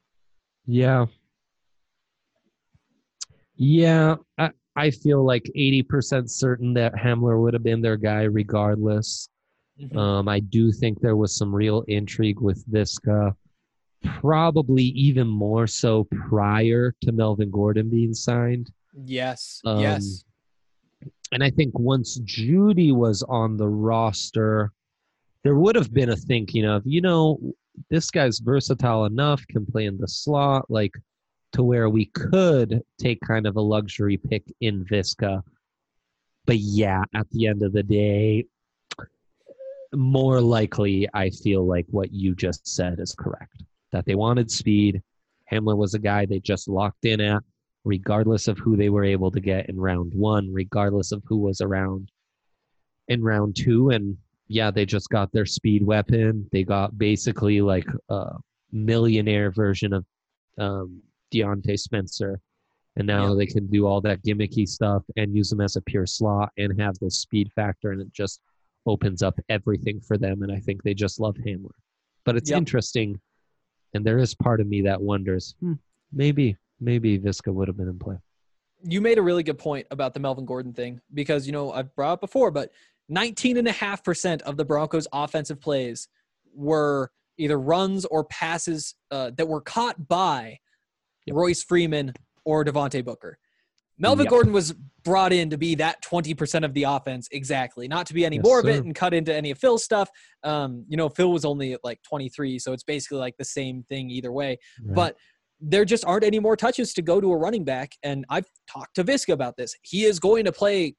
Yeah, I feel like 80% certain that Hamler would have been their guy regardless. I do think there was some real intrigue with Viska, probably even more so prior to Melvin Gordon being signed. Yes. And I think once Judy was on the roster, there would have been a thinking of, this guy's versatile enough, can play in the slot, to where we could take kind of a luxury pick in Viska. But yeah, at the end of the day, more likely, I feel like what you just said is correct. That they wanted speed. Hamler was a guy they just locked in at, regardless of who they were able to get in round one, regardless of who was around in round two. And yeah, they just got their speed weapon. They got basically a millionaire version of Deontay Spencer And now they can do all that gimmicky stuff and use them as a pure slot and have the speed factor, and it just opens up everything for them. And I think they just love Hamler. But it's interesting, and there is part of me that wonders, maybe Visca would have been in play. You made a really good point about the Melvin Gordon thing because, I've brought up before, but 19.5% of the Broncos' offensive plays were either runs or passes that were caught by Royce Freeman or Devontae Booker. Melvin Gordon was brought in to be that 20% of the offense exactly, not to be any more of it and cut into any of Phil's stuff. Phil was only at like 23, so it's basically like the same thing either way. Right. But there just aren't any more touches to go to a running back, and I've talked to Visca about this. He is going to play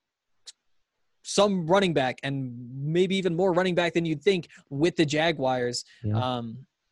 some running back and maybe even more running back than you'd think with the Jaguars. Yeah.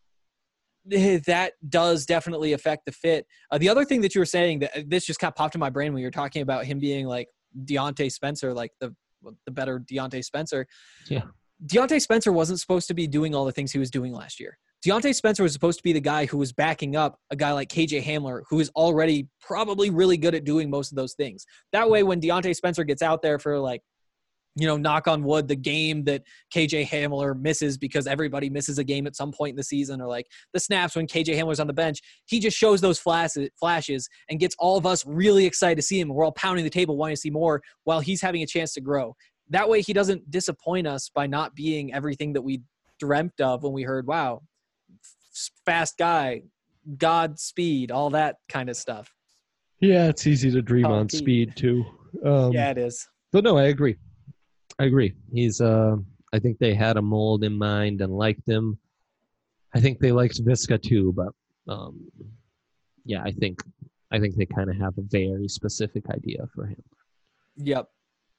That does definitely affect the fit. The other thing that you were saying, that this just kind of popped in my brain when you were talking about him being like Deontay Spencer, like the better Deontay Spencer. Yeah. Deontay Spencer wasn't supposed to be doing all the things he was doing last year. Deontay Spencer was supposed to be the guy who was backing up a guy like KJ Hamler, who is already probably really good at doing most of those things. That way, when Deontay Spencer gets out there for like, knock on wood, the game that KJ Hamler misses because everybody misses a game at some point in the season, or like the snaps when KJ Hamler's on the bench, he just shows those flashes and gets all of us really excited to see him. We're all pounding the table wanting to see more while he's having a chance to grow. That way he doesn't disappoint us by not being everything that we dreamt of when we heard, wow, fast guy, God speed, all that kind of stuff. Yeah, it's easy to dream on speed too. Yeah, it is. But no, I agree. He's I think they had a mold in mind and liked him. I think they liked Visca too, but yeah, I think they kind of have a very specific idea for him. Yep.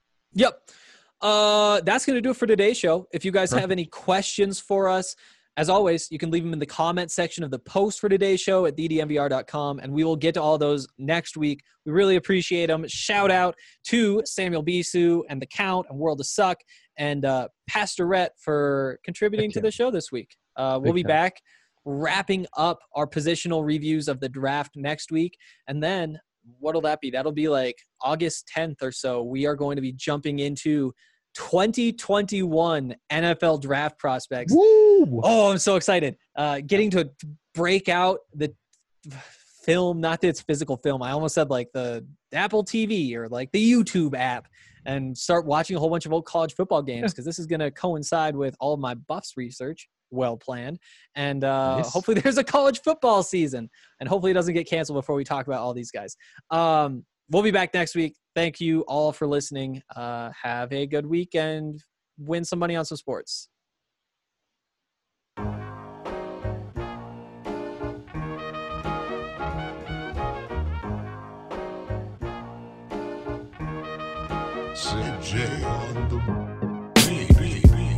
That's going to do it for today's show. If you guys have any questions for us, as always, you can leave them in the comment section of the post for today's show at ddnvr.com, and we will get to all those next week. We really appreciate them. Shout out to Samuel Bisu and The Count and World of Suck and Pastorette for contributing to the show this week. We'll be back wrapping up our positional reviews of the draft next week, and then what'll that be? That'll be like August 10th or so. We are going to be jumping into 2021 NFL draft prospects. Woo! Oh, I'm so excited. Getting to break out the film, not that it's physical film. I almost said like the Apple TV or like the YouTube app, and start watching a whole bunch of old college football games, because this is going to coincide with all of my Buffs research. Well planned. And hopefully there's a college football season, and hopefully it doesn't get canceled before we talk about all these guys. We'll be back next week. Thank you all for listening. Have a good week and win some money on some sports. CJ on the beat.